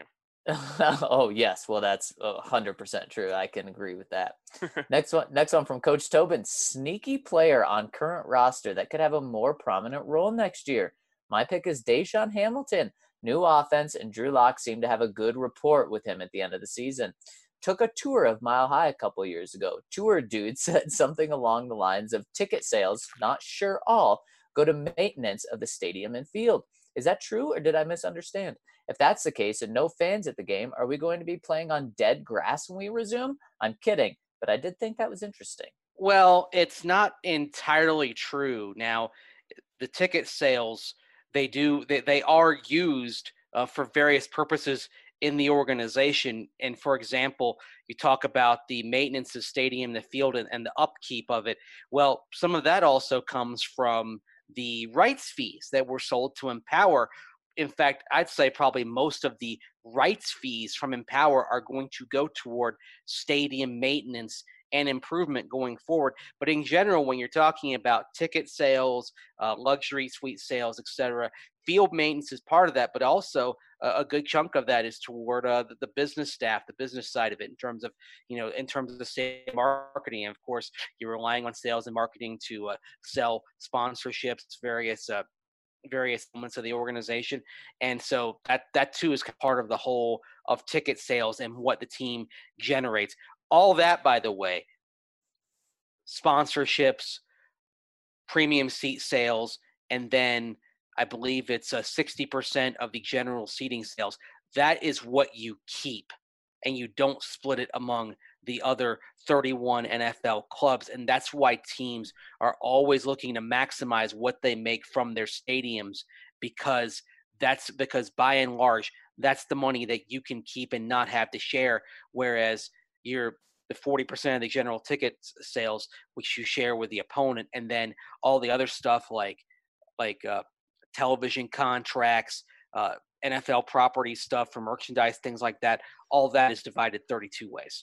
Oh yes, well that's a hundred percent true. I can agree with that. Next one, next one from Coach Tobin. Sneaky player on current roster that could have a more prominent role next year. My pick is Deshaun Hamilton. New offense, and Drew Lock seemed to have a good rapport with him at the end of the season. Took a tour of Mile High a couple years ago. Tour dude said something along the lines of ticket sales, not sure all, go to maintenance of the stadium and field. Is that true, or did I misunderstand? If that's the case and no fans at the game, are we going to be playing on dead grass when we resume? I'm kidding, but I did think that was interesting. Well, it's not entirely true. Now, the ticket sales, they do they, they are used uh, for various purposes in the organization. And for example, you talk about the maintenance of stadium, the field, and, and the upkeep of it. Well, some of that also comes from the rights fees that were sold to Empower. In fact, I'd say probably most of the rights fees from Empower are going to go toward stadium maintenance and improvement going forward. But in general, when you're talking about ticket sales, uh, luxury suite sales, et cetera, field maintenance is part of that, but also a, a good chunk of that is toward uh, the, the business staff, the business side of it, in terms of, you know, in terms of the sales marketing. And of course, you're relying on sales and marketing to uh, sell sponsorships, various uh, various elements of the organization. And so that that too is part of the whole of ticket sales and what the team generates. All that, by the way, sponsorships, premium seat sales, and then I believe it's a sixty percent of the general seating sales. That is what you keep, and you don't split it among the other thirty-one N F L clubs. And that's why teams are always looking to maximize what they make from their stadiums, because that's because by and large, that's the money that you can keep and not have to share. Whereas you're the forty percent of the general ticket sales, which you share with the opponent, and then all the other stuff like like uh, television contracts, uh, N F L property stuff for merchandise, things like that. All that is divided thirty-two ways.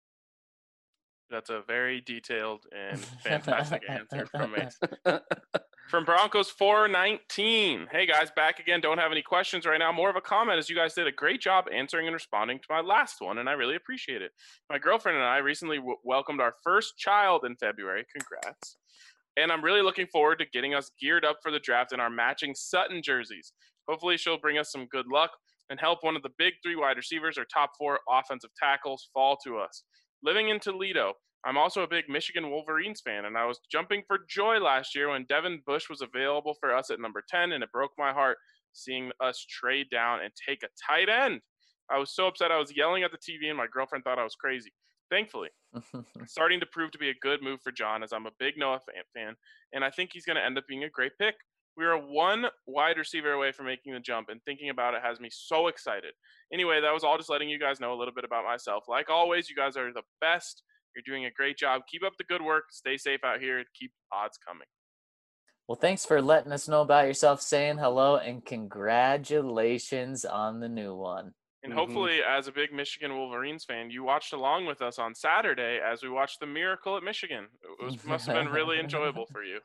That's a very detailed and fantastic answer from Mace. From Broncos four nineteen. Hey guys, back again. Don't have any questions right now. More of a comment, as you guys did a great job answering and responding to my last one, and I really appreciate it. My girlfriend and I recently w- welcomed our first child in February. Congrats. And I'm really looking forward to getting us geared up for the draft in our matching Sutton jerseys. Hopefully she'll bring us some good luck and help one of the big three wide receivers or top four offensive tackles fall to us. Living in Toledo, I'm also a big Michigan Wolverines fan, and I was jumping for joy last year when Devin Bush was available for us at number ten, and it broke my heart seeing us trade down and take a tight end. I was so upset I was yelling at the T V, and my girlfriend thought I was crazy. Thankfully, it's starting to prove to be a good move for John, as I'm a big Noah fan, and I think he's going to end up being a great pick. We are one wide receiver away from making the jump, and thinking about it has me so excited. Anyway, that was all just letting you guys know a little bit about myself. Like always, you guys are the best. You're doing a great job. Keep up the good work. Stay safe out here. Keep odds coming. Well, thanks for letting us know about yourself, saying hello, and congratulations on the new one. And Mm-hmm. hopefully, as a big Michigan Wolverines fan, you watched along with us on Saturday as we watched the Miracle at Michigan. It was, must have been really enjoyable for you.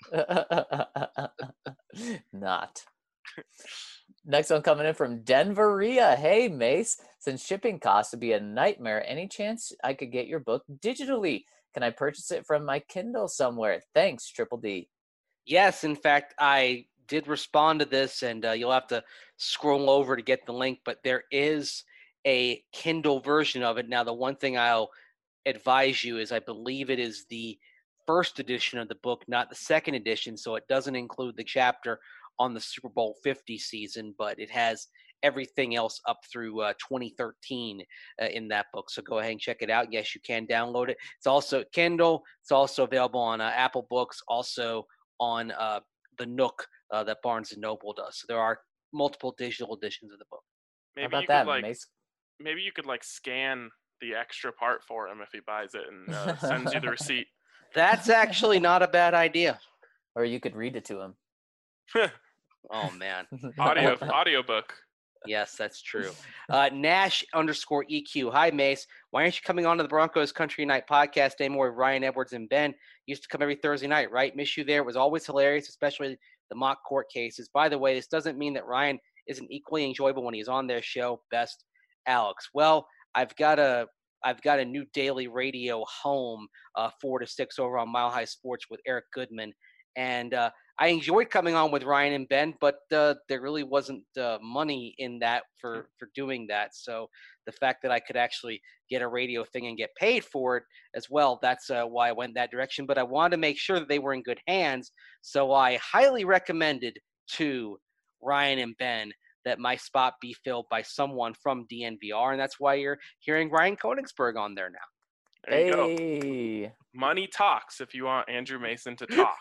Not. Next one coming in from Denveria. Hey, Mace, since shipping costs would be a nightmare, any chance I could get your book digitally? Can I purchase it from my Kindle somewhere? Thanks, Triple D. Yes, in fact, I did respond to this, and uh, you'll have to scroll over to get the link, but there is a Kindle version of it. Now, the one thing I'll advise you is I believe it is the first edition of the book, not the second edition, so it doesn't include the chapter on the Super Bowl fifty season, but it has everything else up through uh, twenty thirteen uh, in that book. So go ahead and check it out. Yes, you can download it. It's also Kindle. It's also available on uh, Apple Books, also on uh, the Nook uh, that Barnes and Noble does. So there are multiple digital editions of the book. Maybe How about you that, could like Mace? maybe you could like scan the extra part for him if he buys it and uh, sends you the receipt. That's actually not a bad idea. Or you could read it to him. Oh, man. Audio audiobook. Yes, that's true. Uh, Nash underscore E Q. Hi, Mace. Why aren't you coming on to the Broncos Country Night podcast anymore with Ryan Edwards and Ben? Used to come every Thursday night, right? Miss you there. It was always hilarious, especially the mock court cases. By the way, this doesn't mean that Ryan isn't equally enjoyable when he's on their show. Best, Alex. Well, I've got a I've got a new daily radio home, uh, four to six over on Mile High Sports with Eric Goodman. And uh, I enjoyed coming on with Ryan and Ben, but uh, there really wasn't uh, money in that for, for doing that. So the fact that I could actually get a radio thing and get paid for it as well, that's uh, why I went that direction. But I wanted to make sure that they were in good hands. So I highly recommended to Ryan and Ben that my spot be filled by someone from D N V R. And that's why you're hearing Ryan Koenigsberg on there now. There you Hey. go. Money talks if you want Andrew Mason to talk.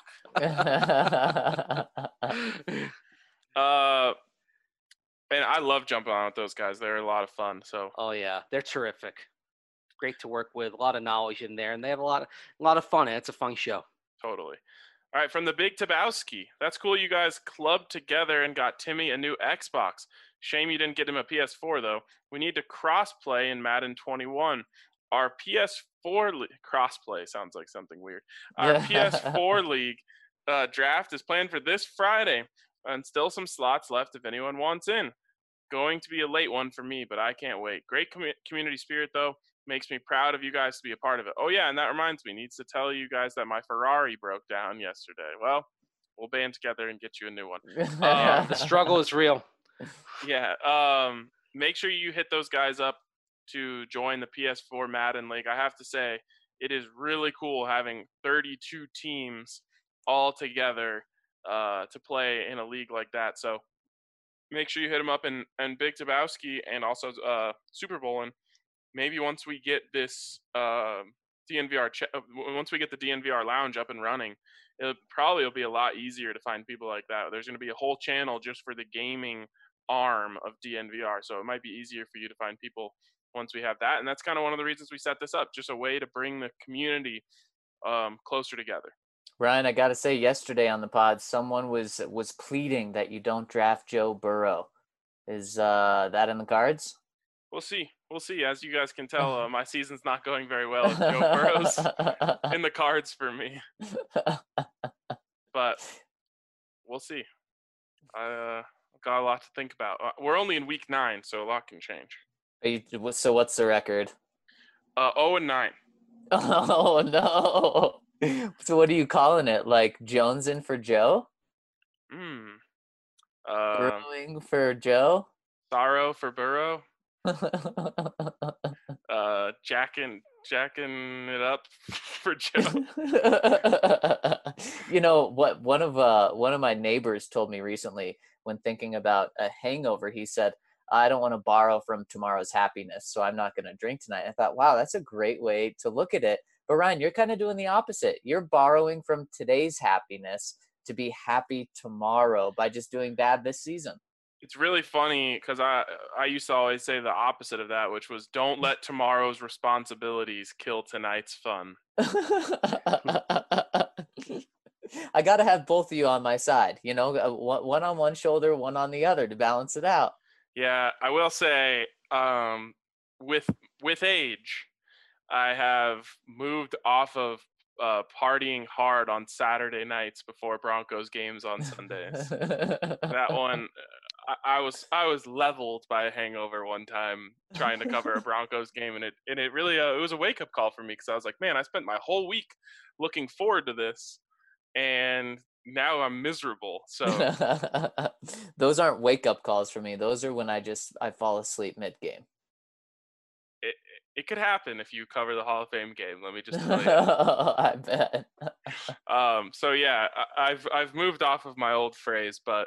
uh, and I love jumping on with those guys. They're a lot of fun. So Oh yeah, they're terrific. Great to work with. A lot of knowledge in there, and they have a lot of a lot of fun. And it's a fun show. totally. All right, from the Big Tabowski. That's cool you guys clubbed together and got Timmy a new Xbox. Shame you didn't get him a P S four, though. We need to cross-play in Madden twenty-one. Our P S four le- crossplay sounds like something weird. Our P S four league uh, draft is planned for this Friday, and still some slots left if anyone wants in. Going to be a late one for me, but I can't wait. Great com- community spirit, though. Makes me proud of you guys to be a part of it. Oh, yeah, and that reminds me, needs to tell you guys that my Ferrari broke down yesterday. Well, we'll band together and get you a new one. Um, the struggle is real. Yeah. Um, make sure you hit those guys up to join the P S four Madden League. I have to say, it is really cool having thirty-two teams all together uh, to play in a league like that. So make sure you hit them up. And, and Big Tabowski and also uh, Super Bowlin', maybe once we get this uh, D N V R, ch- once we get the D N V R lounge up and running, it probably will be a lot easier to find people like that. There's going to be a whole channel just for the gaming arm of D N V R, so it might be easier for you to find people once we have that. And that's kind of one of the reasons we set this up, just a way to bring the community um, closer together. Ryan, I got to say, yesterday on the pod, someone was was pleading that you don't draft Joe Burrow. Is uh, that in the cards? We'll see. We'll see. As you guys can tell, uh, my season's not going very well. If Joe Burrow's in the cards for me, but we'll see. I uh, got a lot to think about. Uh, we're only in week nine, so a lot can change. Are you, so what's the record? Uh, oh and nine. Oh no! So what are you calling it? Like Jones in for Joe? Hmm. Uh, Brewing for Joe? Sorrow for Burrow. uh, jacking, jacking it up for Joe. You know what? One of uh, one of my neighbors told me recently when thinking about a hangover. He said, "I don't want to borrow from tomorrow's happiness, so I'm not going to drink tonight." I thought, wow, that's a great way to look at it. But Ryan, you're kind of doing the opposite. You're borrowing from today's happiness to be happy tomorrow by just doing bad this season. It's really funny because I I used to always say the opposite of that, which was don't let tomorrow's responsibilities kill tonight's fun. I got to have both of you on my side, you know, one on one shoulder, one on the other to balance it out. Yeah, I will say um, with with age, I have moved off of uh, partying hard on Saturday nights before Broncos games on Sundays. That one, I, I was I was leveled by a hangover one time trying to cover a Broncos game, and it and it really uh, it was a wake up call for me because I was like, man, I spent my whole week looking forward to this, and now I'm miserable. So those aren't wake up calls for me. Those are when I just I fall asleep mid game. It it could happen if you cover the Hall of Fame game. Let me just tell you. I bet. um. So yeah, I, I've I've moved off of my old phrase, but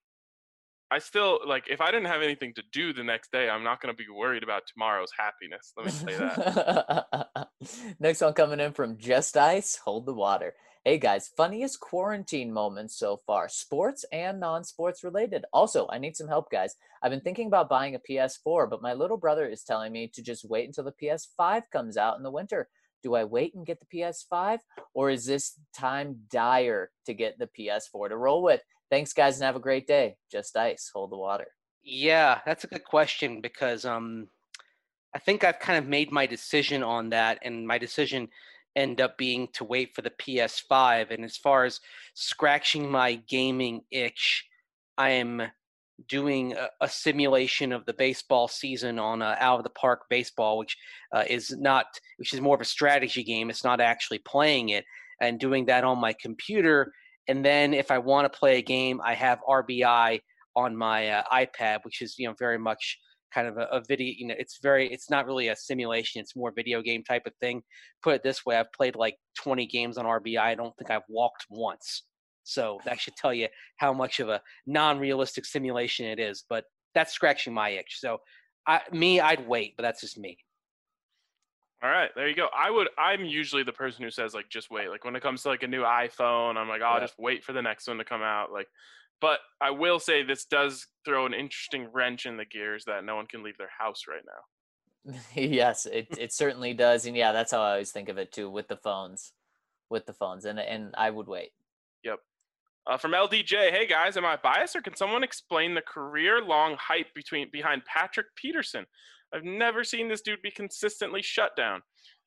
I still like if I didn't have anything to do the next day, I'm not going to be worried about tomorrow's happiness. Let me say that. Next one coming in from Just Ice. Hold the water. Hey guys, funniest quarantine moments so far, sports and non-sports related. Also, I need some help, guys. I've been thinking about buying a P S four, but my little brother is telling me to just wait until the P S five comes out in the winter. Do I wait and get the P S five, or is this time dire to get the P S four to roll with? Thanks, guys, and have a great day. Just Ice, hold the water. Yeah, that's a good question because um, I think I've kind of made my decision on that, and my decision end up being to wait for the P S five. And as far as scratching my gaming itch, I am doing a, a simulation of the baseball season on uh, Out of the Park Baseball, which uh, is not, which is more of a strategy game. It's not actually playing it, and doing that on my computer. And then if I want to play a game, I have R B I on my uh, iPad, which is, you know, very much kind of a, a video, you know, it's very, it's not really a simulation. It's more video game type of thing. Put it this way, I've played like twenty games on R B I. I don't think I've walked once. So that should tell you how much of a non-realistic simulation it is, but that's scratching my itch. So I, me, I'd wait, but that's just me. All right, there you go. I would, I'm usually the person who says like, just wait. Like when it comes to like a new iPhone, I'm like, oh, I'll Yeah. just wait for the next one to come out. Like, but I will say this does throw an interesting wrench in the gears that no one can leave their house right now. Yes, it it certainly does. And yeah, that's how I always think of it too, with the phones, with the phones. And, and I would wait. Yep. Uh, from L D J, hey guys, am I biased or can someone explain the career-long hype between behind Patrick Peterson? I've never seen this dude be consistently shut down.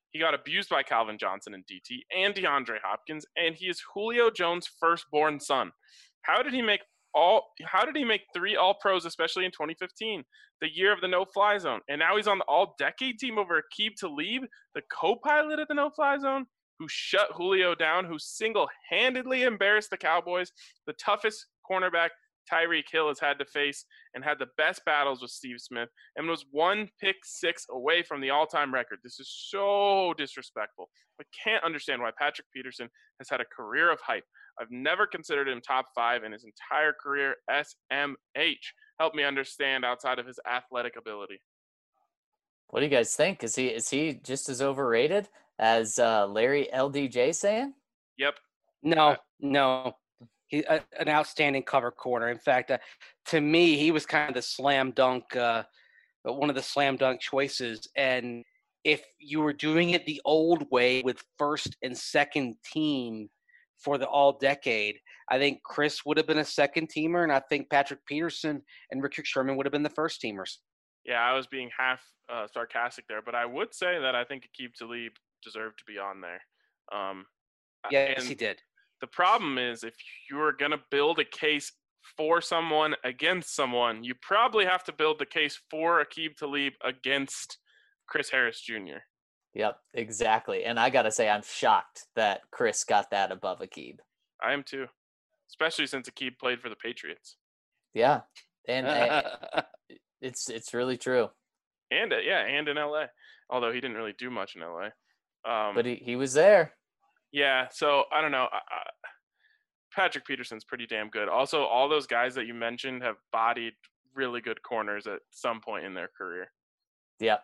He got abused by Calvin Johnson and D T and DeAndre Hopkins, and he is Julio Jones' firstborn son. How did he make all? How did he make three All-Pros, especially in twenty fifteen, the year of the no-fly zone? And now he's on the All-Decade team over Aqib Talib, the co-pilot of the no-fly zone, who shut Julio down, who single-handedly embarrassed the Cowboys, the toughest cornerback Tyreek Hill has had to face, and had the best battles with Steve Smith, and was one pick six away from the all-time record. This is so disrespectful. I can't understand why Patrick Peterson has had a career of hype. I've never considered him top five in his entire career. S M H. Help me understand outside of his athletic ability. What do you guys think? Is he is he just as overrated as uh, Larry L D J saying? Yep. No, no. He, uh, an outstanding cover corner. In fact, uh, to me, he was kind of the slam dunk, uh, one of the slam dunk choices. And if you were doing it the old way with first and second team for the all decade, I think Chris would have been a second teamer, and I think Patrick Peterson and Richard Sherman would have been the first teamers. Yeah, I was being half uh, sarcastic there, but I would say that I think Aqib Talib deserved to be on there. Um, yes, he did. The problem is, if you're going to build a case for someone against someone, you probably have to build the case for Aqib Talib against Chris Harris Junior Yep, exactly. And I got to say, I'm shocked that Chris got that above Aqib. I am too, especially since Aqib played for the Patriots. Yeah, and uh, it's it's really true. And uh, yeah, and in L A, although he didn't really do much in L A. Um, but he, he was there. Yeah, so I don't know. I, I, Patrick Peterson's pretty damn good. Also, all those guys that you mentioned have bodied really good corners at some point in their career. Yep.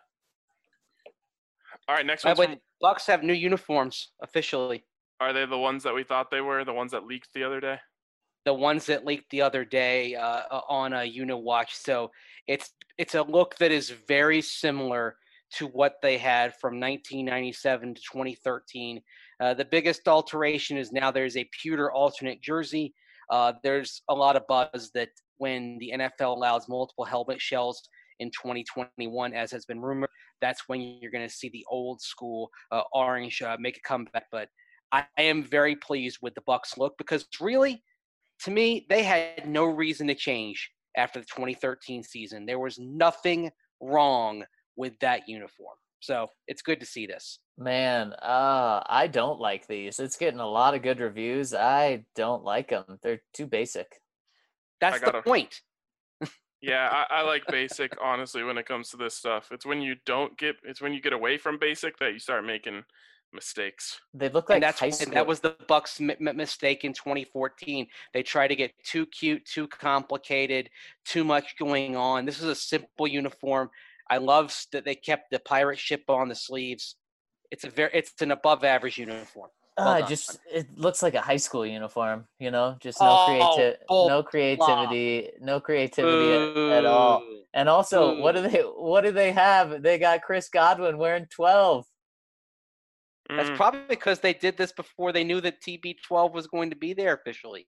All right, next one. one. Bucks have new uniforms officially. Are they the ones that we thought they were? The ones that leaked the other day? The ones that leaked the other day uh, on a Uniwatch. So it's it's a look that is very similar to what they had from nineteen ninety-seven to twenty thirteen. Uh, the biggest alteration is now there's a pewter alternate jersey. Uh, there's a lot of buzz that when the N F L allows multiple helmet shells in twenty twenty-one, as has been rumored, that's when you're going to see the old school uh, orange uh, make a comeback. But I, I am very pleased with the Bucs look, because really, to me, they had no reason to change after the twenty thirteen season. There was nothing wrong with that uniform. So it's good to see this. Man, uh, I don't like these. It's getting a lot of good reviews. I don't like them. They're too basic. That's gotta, the point. yeah, I, I like basic, honestly, when it comes to this stuff. It's when you don't get, it's when you get away from basic that you start making mistakes. They look like and that's, high school. And that was the Bucs' m- mistake in twenty fourteen. They tried to get too cute, too complicated, too much going on. This is a simple uniform. I love that they kept the pirate ship on the sleeves. It's a very, it's an above average uniform. Well uh, just it looks like a high school uniform, you know, just no oh, creativity, oh, no creativity, blah. no creativity at, at all. And also, Ooh. what do they, what do they have? They got Chris Godwin wearing twelve. That's mm. probably because they did this before they knew that T B twelve was going to be there officially.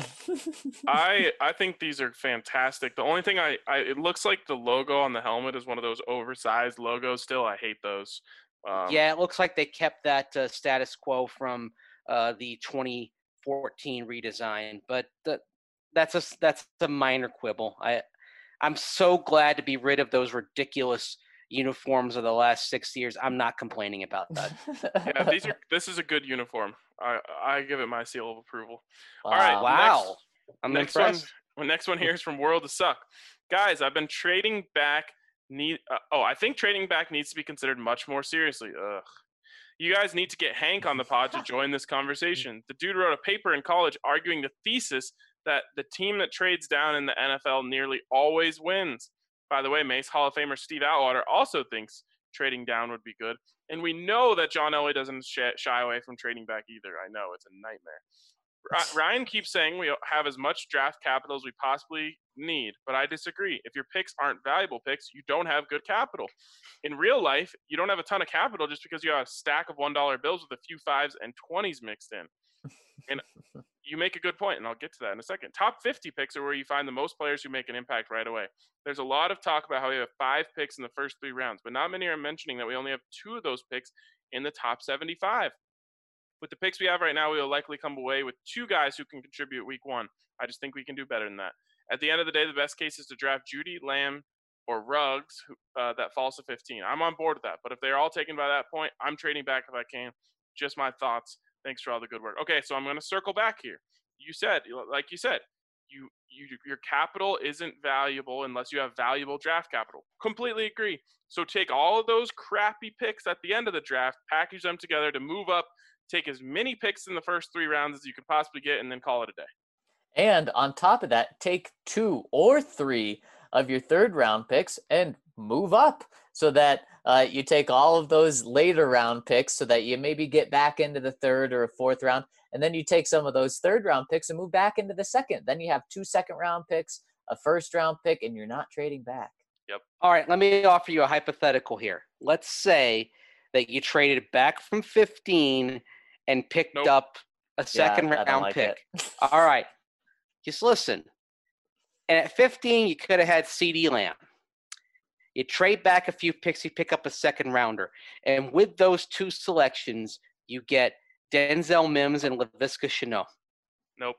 I I think these are fantastic. The only thing I, I it looks like the logo on the helmet is one of those oversized logos still. I hate those. Um, yeah, it looks like they kept that uh, status quo from uh, the twenty fourteen redesign, but the, that's a that's a minor quibble. I I'm so glad to be rid of those ridiculous uniforms of the last six years. I'm not complaining about that. yeah, these are this is a good uniform. I I give it my seal of approval. Wow. All right, wow. Next, I'm next impressed. one. Next one here is from World to Suck. Guys, I've been trading back. Need uh, oh, I think trading back needs to be considered much more seriously. Ugh. You guys need to get Hank on the pod to join this conversation. The dude wrote a paper in college arguing the thesis that the team that trades down in the N F L nearly always wins. By the way, Mace Hall of Famer Steve Atwater also thinks trading down would be good. And we know that John Elway doesn't shy away from trading back either. I know, it's a nightmare. Ryan keeps saying we have as much draft capital as we possibly need, but I disagree. If your picks aren't valuable picks, you don't have good capital. In real life, you don't have a ton of capital just because you have a stack of one dollar bills with a few fives and twenties mixed in. And you make a good point, and I'll get to that in a second. Top fifty picks are where you find the most players who make an impact right away. There's a lot of talk about how we have five picks in the first three rounds, but not many are mentioning that we only have two of those picks in the top seventy-five. With the picks we have right now, we will likely come away with two guys who can contribute week one. I just think we can do better than that. At the end of the day, the best case is to draft Judy, Lamb, or Ruggs who, uh, that falls to fifteen. I'm on board with that. But if they're all taken by that point, I'm trading back if I can. Just my thoughts. Thanks for all the good work. Okay, so I'm going to circle back here. You said, like you said, you, you your capital isn't valuable unless you have valuable draft capital. Completely agree. So take all of those crappy picks at the end of the draft, package them together to move up, take as many picks in the first three rounds as you could possibly get, and then call it a day. And on top of that, take two or three of your third round picks and move up so that uh, you take all of those later round picks so that you maybe get back into the third or fourth round. And then you take some of those third round picks and move back into the second. Then you have two second round picks, a first round pick, and you're not trading back. Yep. All right, let me offer you a hypothetical here. Let's say that you traded back from fifteen and picked Nope. up a second Yeah, I don't round like pick. it. All right, just listen. And at fifteen, you could have had CeeDee Lamb. You trade back a few picks, you pick up a second rounder. And with those two selections, you get Denzel Mims and Laviska Shenault. Nope.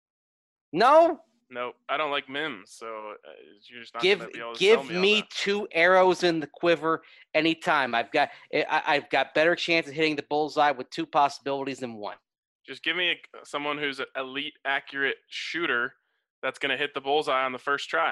No? Nope. I don't like Mims, so uh, you're just not Give going to be able to give sell me, me on that. two arrows in the quiver anytime. I've got I, I've got better chance of hitting the bullseye with two possibilities than one. Just give me a, someone who's an elite, accurate shooter that's going to hit the bullseye on the first try.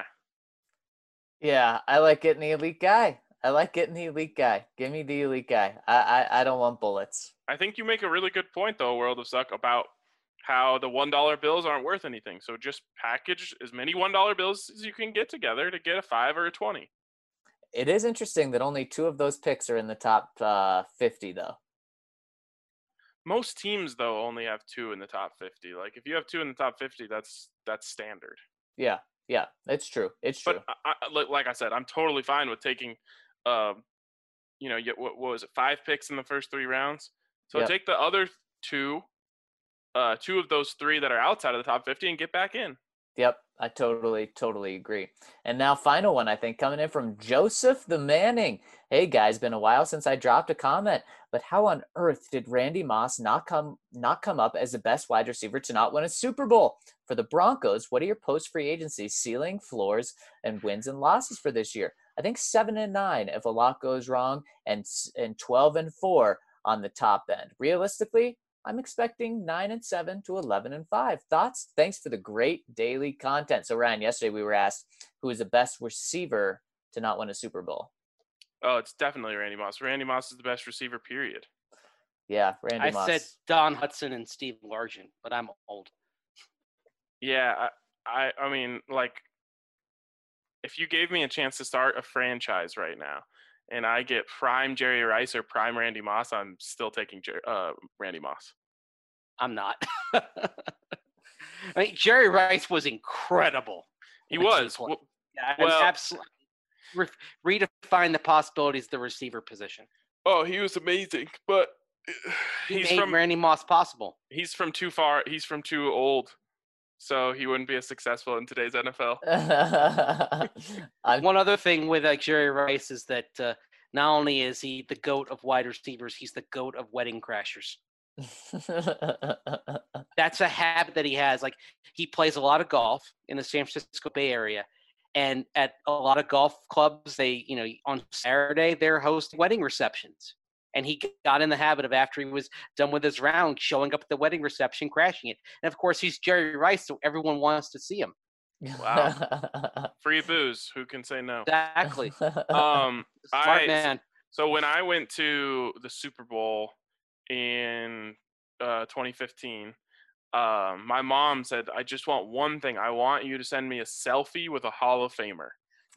Yeah, I like getting the elite guy. I like getting the elite guy. Give me the elite guy. I I, I don't want bullets. I think you make a really good point, though, World of Suck, about how the one dollar bills aren't worth anything. So just package as many one dollar bills as you can get together to get a five or a twenty. It is interesting that only two of those picks are in the top uh, fifty, though. Most teams, though, only have two in the top fifty. Like, if you have two in the top fifty, that's that's standard. Yeah, yeah, it's true. It's true. But I, I, like I said, I'm totally fine with taking, um, you know, what, what was it, five picks in the first three rounds. So Yep. take the other two, uh, two of those three that are outside of the top fifty and get back in. Yep, I totally, totally agree. And now final one, I think, coming in from Joseph the Manning. Hey, guys, been a while since I dropped a comment, but how on earth did Randy Moss not come not come up as the best wide receiver to not win a Super Bowl? For the Broncos, what are your post-free agency ceiling, floors, and wins and losses for this year? I think seven and nine if a lot goes wrong, and and twelve and four on the top end. Realistically, I'm expecting nine and seven to eleven and five. Thoughts? Thanks for the great daily content. So Ryan, yesterday we were asked who is the best receiver to not win a Super Bowl. Oh, it's definitely Randy Moss. Randy Moss is the best receiver, period. Yeah, Randy I Moss. said Don Hudson and Steve Largent, but I'm old. Yeah, I, I, I mean, like, if you gave me a chance to start a franchise right now, and I get prime Jerry Rice or prime Randy Moss, I'm still taking Jer- uh, Randy Moss. I'm not. I mean, Jerry Rice was incredible. He when was. played. Well, Yeah, well- absolutely. Re- redefine the possibilities of the receiver position. oh, he was amazing, but He he's made from Randy Moss possible. he's from too far. He's from too old, so he wouldn't be as successful in today's N F L. I'm, One other thing with like Jerry Rice is that uh, not only is he the GOAT of wide receivers, he's the GOAT of wedding crashers. That's a habit that he has. Like, he plays a lot of golf in the San Francisco Bay Area, and at a lot of golf clubs, they, you know, on Saturday they're hosting wedding receptions. And he got in the habit of, after he was done with his round, showing up at the wedding reception, crashing it. And of course, he's Jerry Rice, so everyone wants to see him. Wow. Free booze. Who can say no? Exactly. Um, Smart I, man. So when I went to the Super Bowl in uh, twenty fifteen, um, my mom said, I just want one thing. I want you to send me a selfie with a Hall of Famer.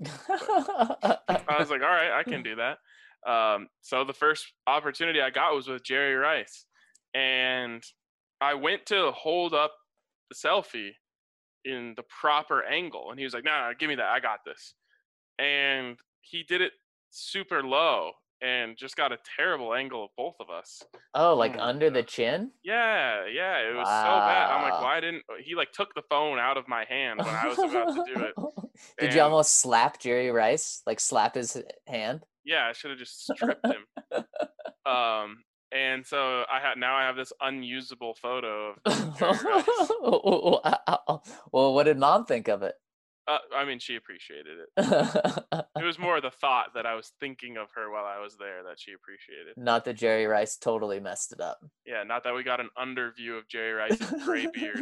I was like, all right, I can do that. Um, so the first opportunity I got was with Jerry Rice. And I went to hold up the selfie in the proper angle. And he was like, no, nah, give me that. I got this. And he did it super low and just got a terrible angle of both of us. Oh, like Oh, under the God. chin? Yeah, yeah, it was so bad. I'm like, Wow. why didn't he like took the phone out of my hand when I was about to do it? Did you And- almost slap Jerry Rice? Like slap his hand? Yeah, I should have just stripped him. Um, And so I had now I have this unusable photo of Jerry Rice. Well, what did Mom think of it? Uh, I mean, she appreciated it. It was more the thought that I was thinking of her while I was there that she appreciated. Not that Jerry Rice totally messed it up. Yeah, not that we got an underview of Jerry Rice's gray beard.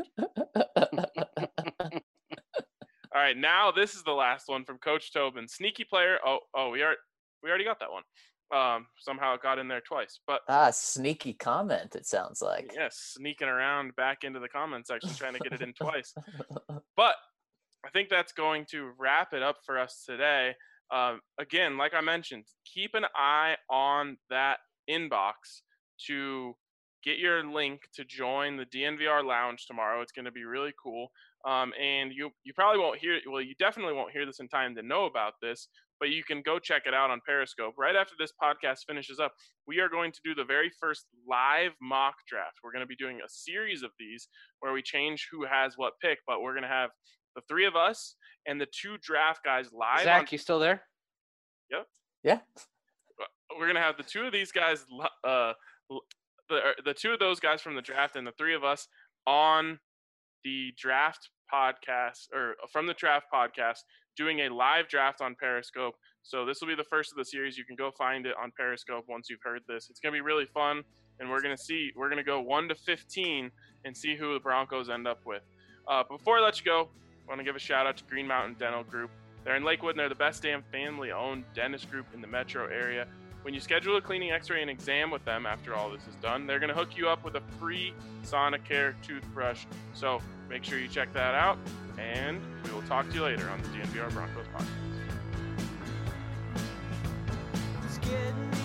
All right, now this is the last one from Coach Tobin. Sneaky player. Oh, oh, we are we already got that one. Um, somehow it got in there twice, but ah, sneaky comment. It sounds like. yes, sneaking around back into the comment section, trying to get it in twice. But I think that's going to wrap it up for us today. Um, again, like I mentioned, keep an eye on that inbox to get your link to join the D N V R Lounge tomorrow. It's going to be really cool. Um, and you you probably won't hear, well, you definitely won't hear this in time to know about this, but you can go check it out on Periscope. Right after this podcast finishes up, we are going to do the very first live mock draft. We're going to be doing a series of these where we change who has what pick, but we're going to have the three of us and the two draft guys live. Zach, on- you still there? Yep. Yeah. We're going to have the two of these guys, uh, the, the two of those guys from the draft and the three of us on the draft podcast, or from the draft podcast, doing a live draft on Periscope. So this will be the first of the series. You can go find it on Periscope once you've heard this. It's going to be really fun, and we're going to see, we're going to go one to fifteen and see who the Broncos end up with. Uh, before I let you go, I want to give a shout out to Green Mountain Dental Group. They're in Lakewood, and they're the best damn family-owned dentist group in the metro area. When you schedule a cleaning, x-ray, and exam with them after all this is done, they're going to hook you up with a free Sonicare toothbrush. So make sure you check that out, and we will talk to you later on the D N V R Broncos podcast. It's getting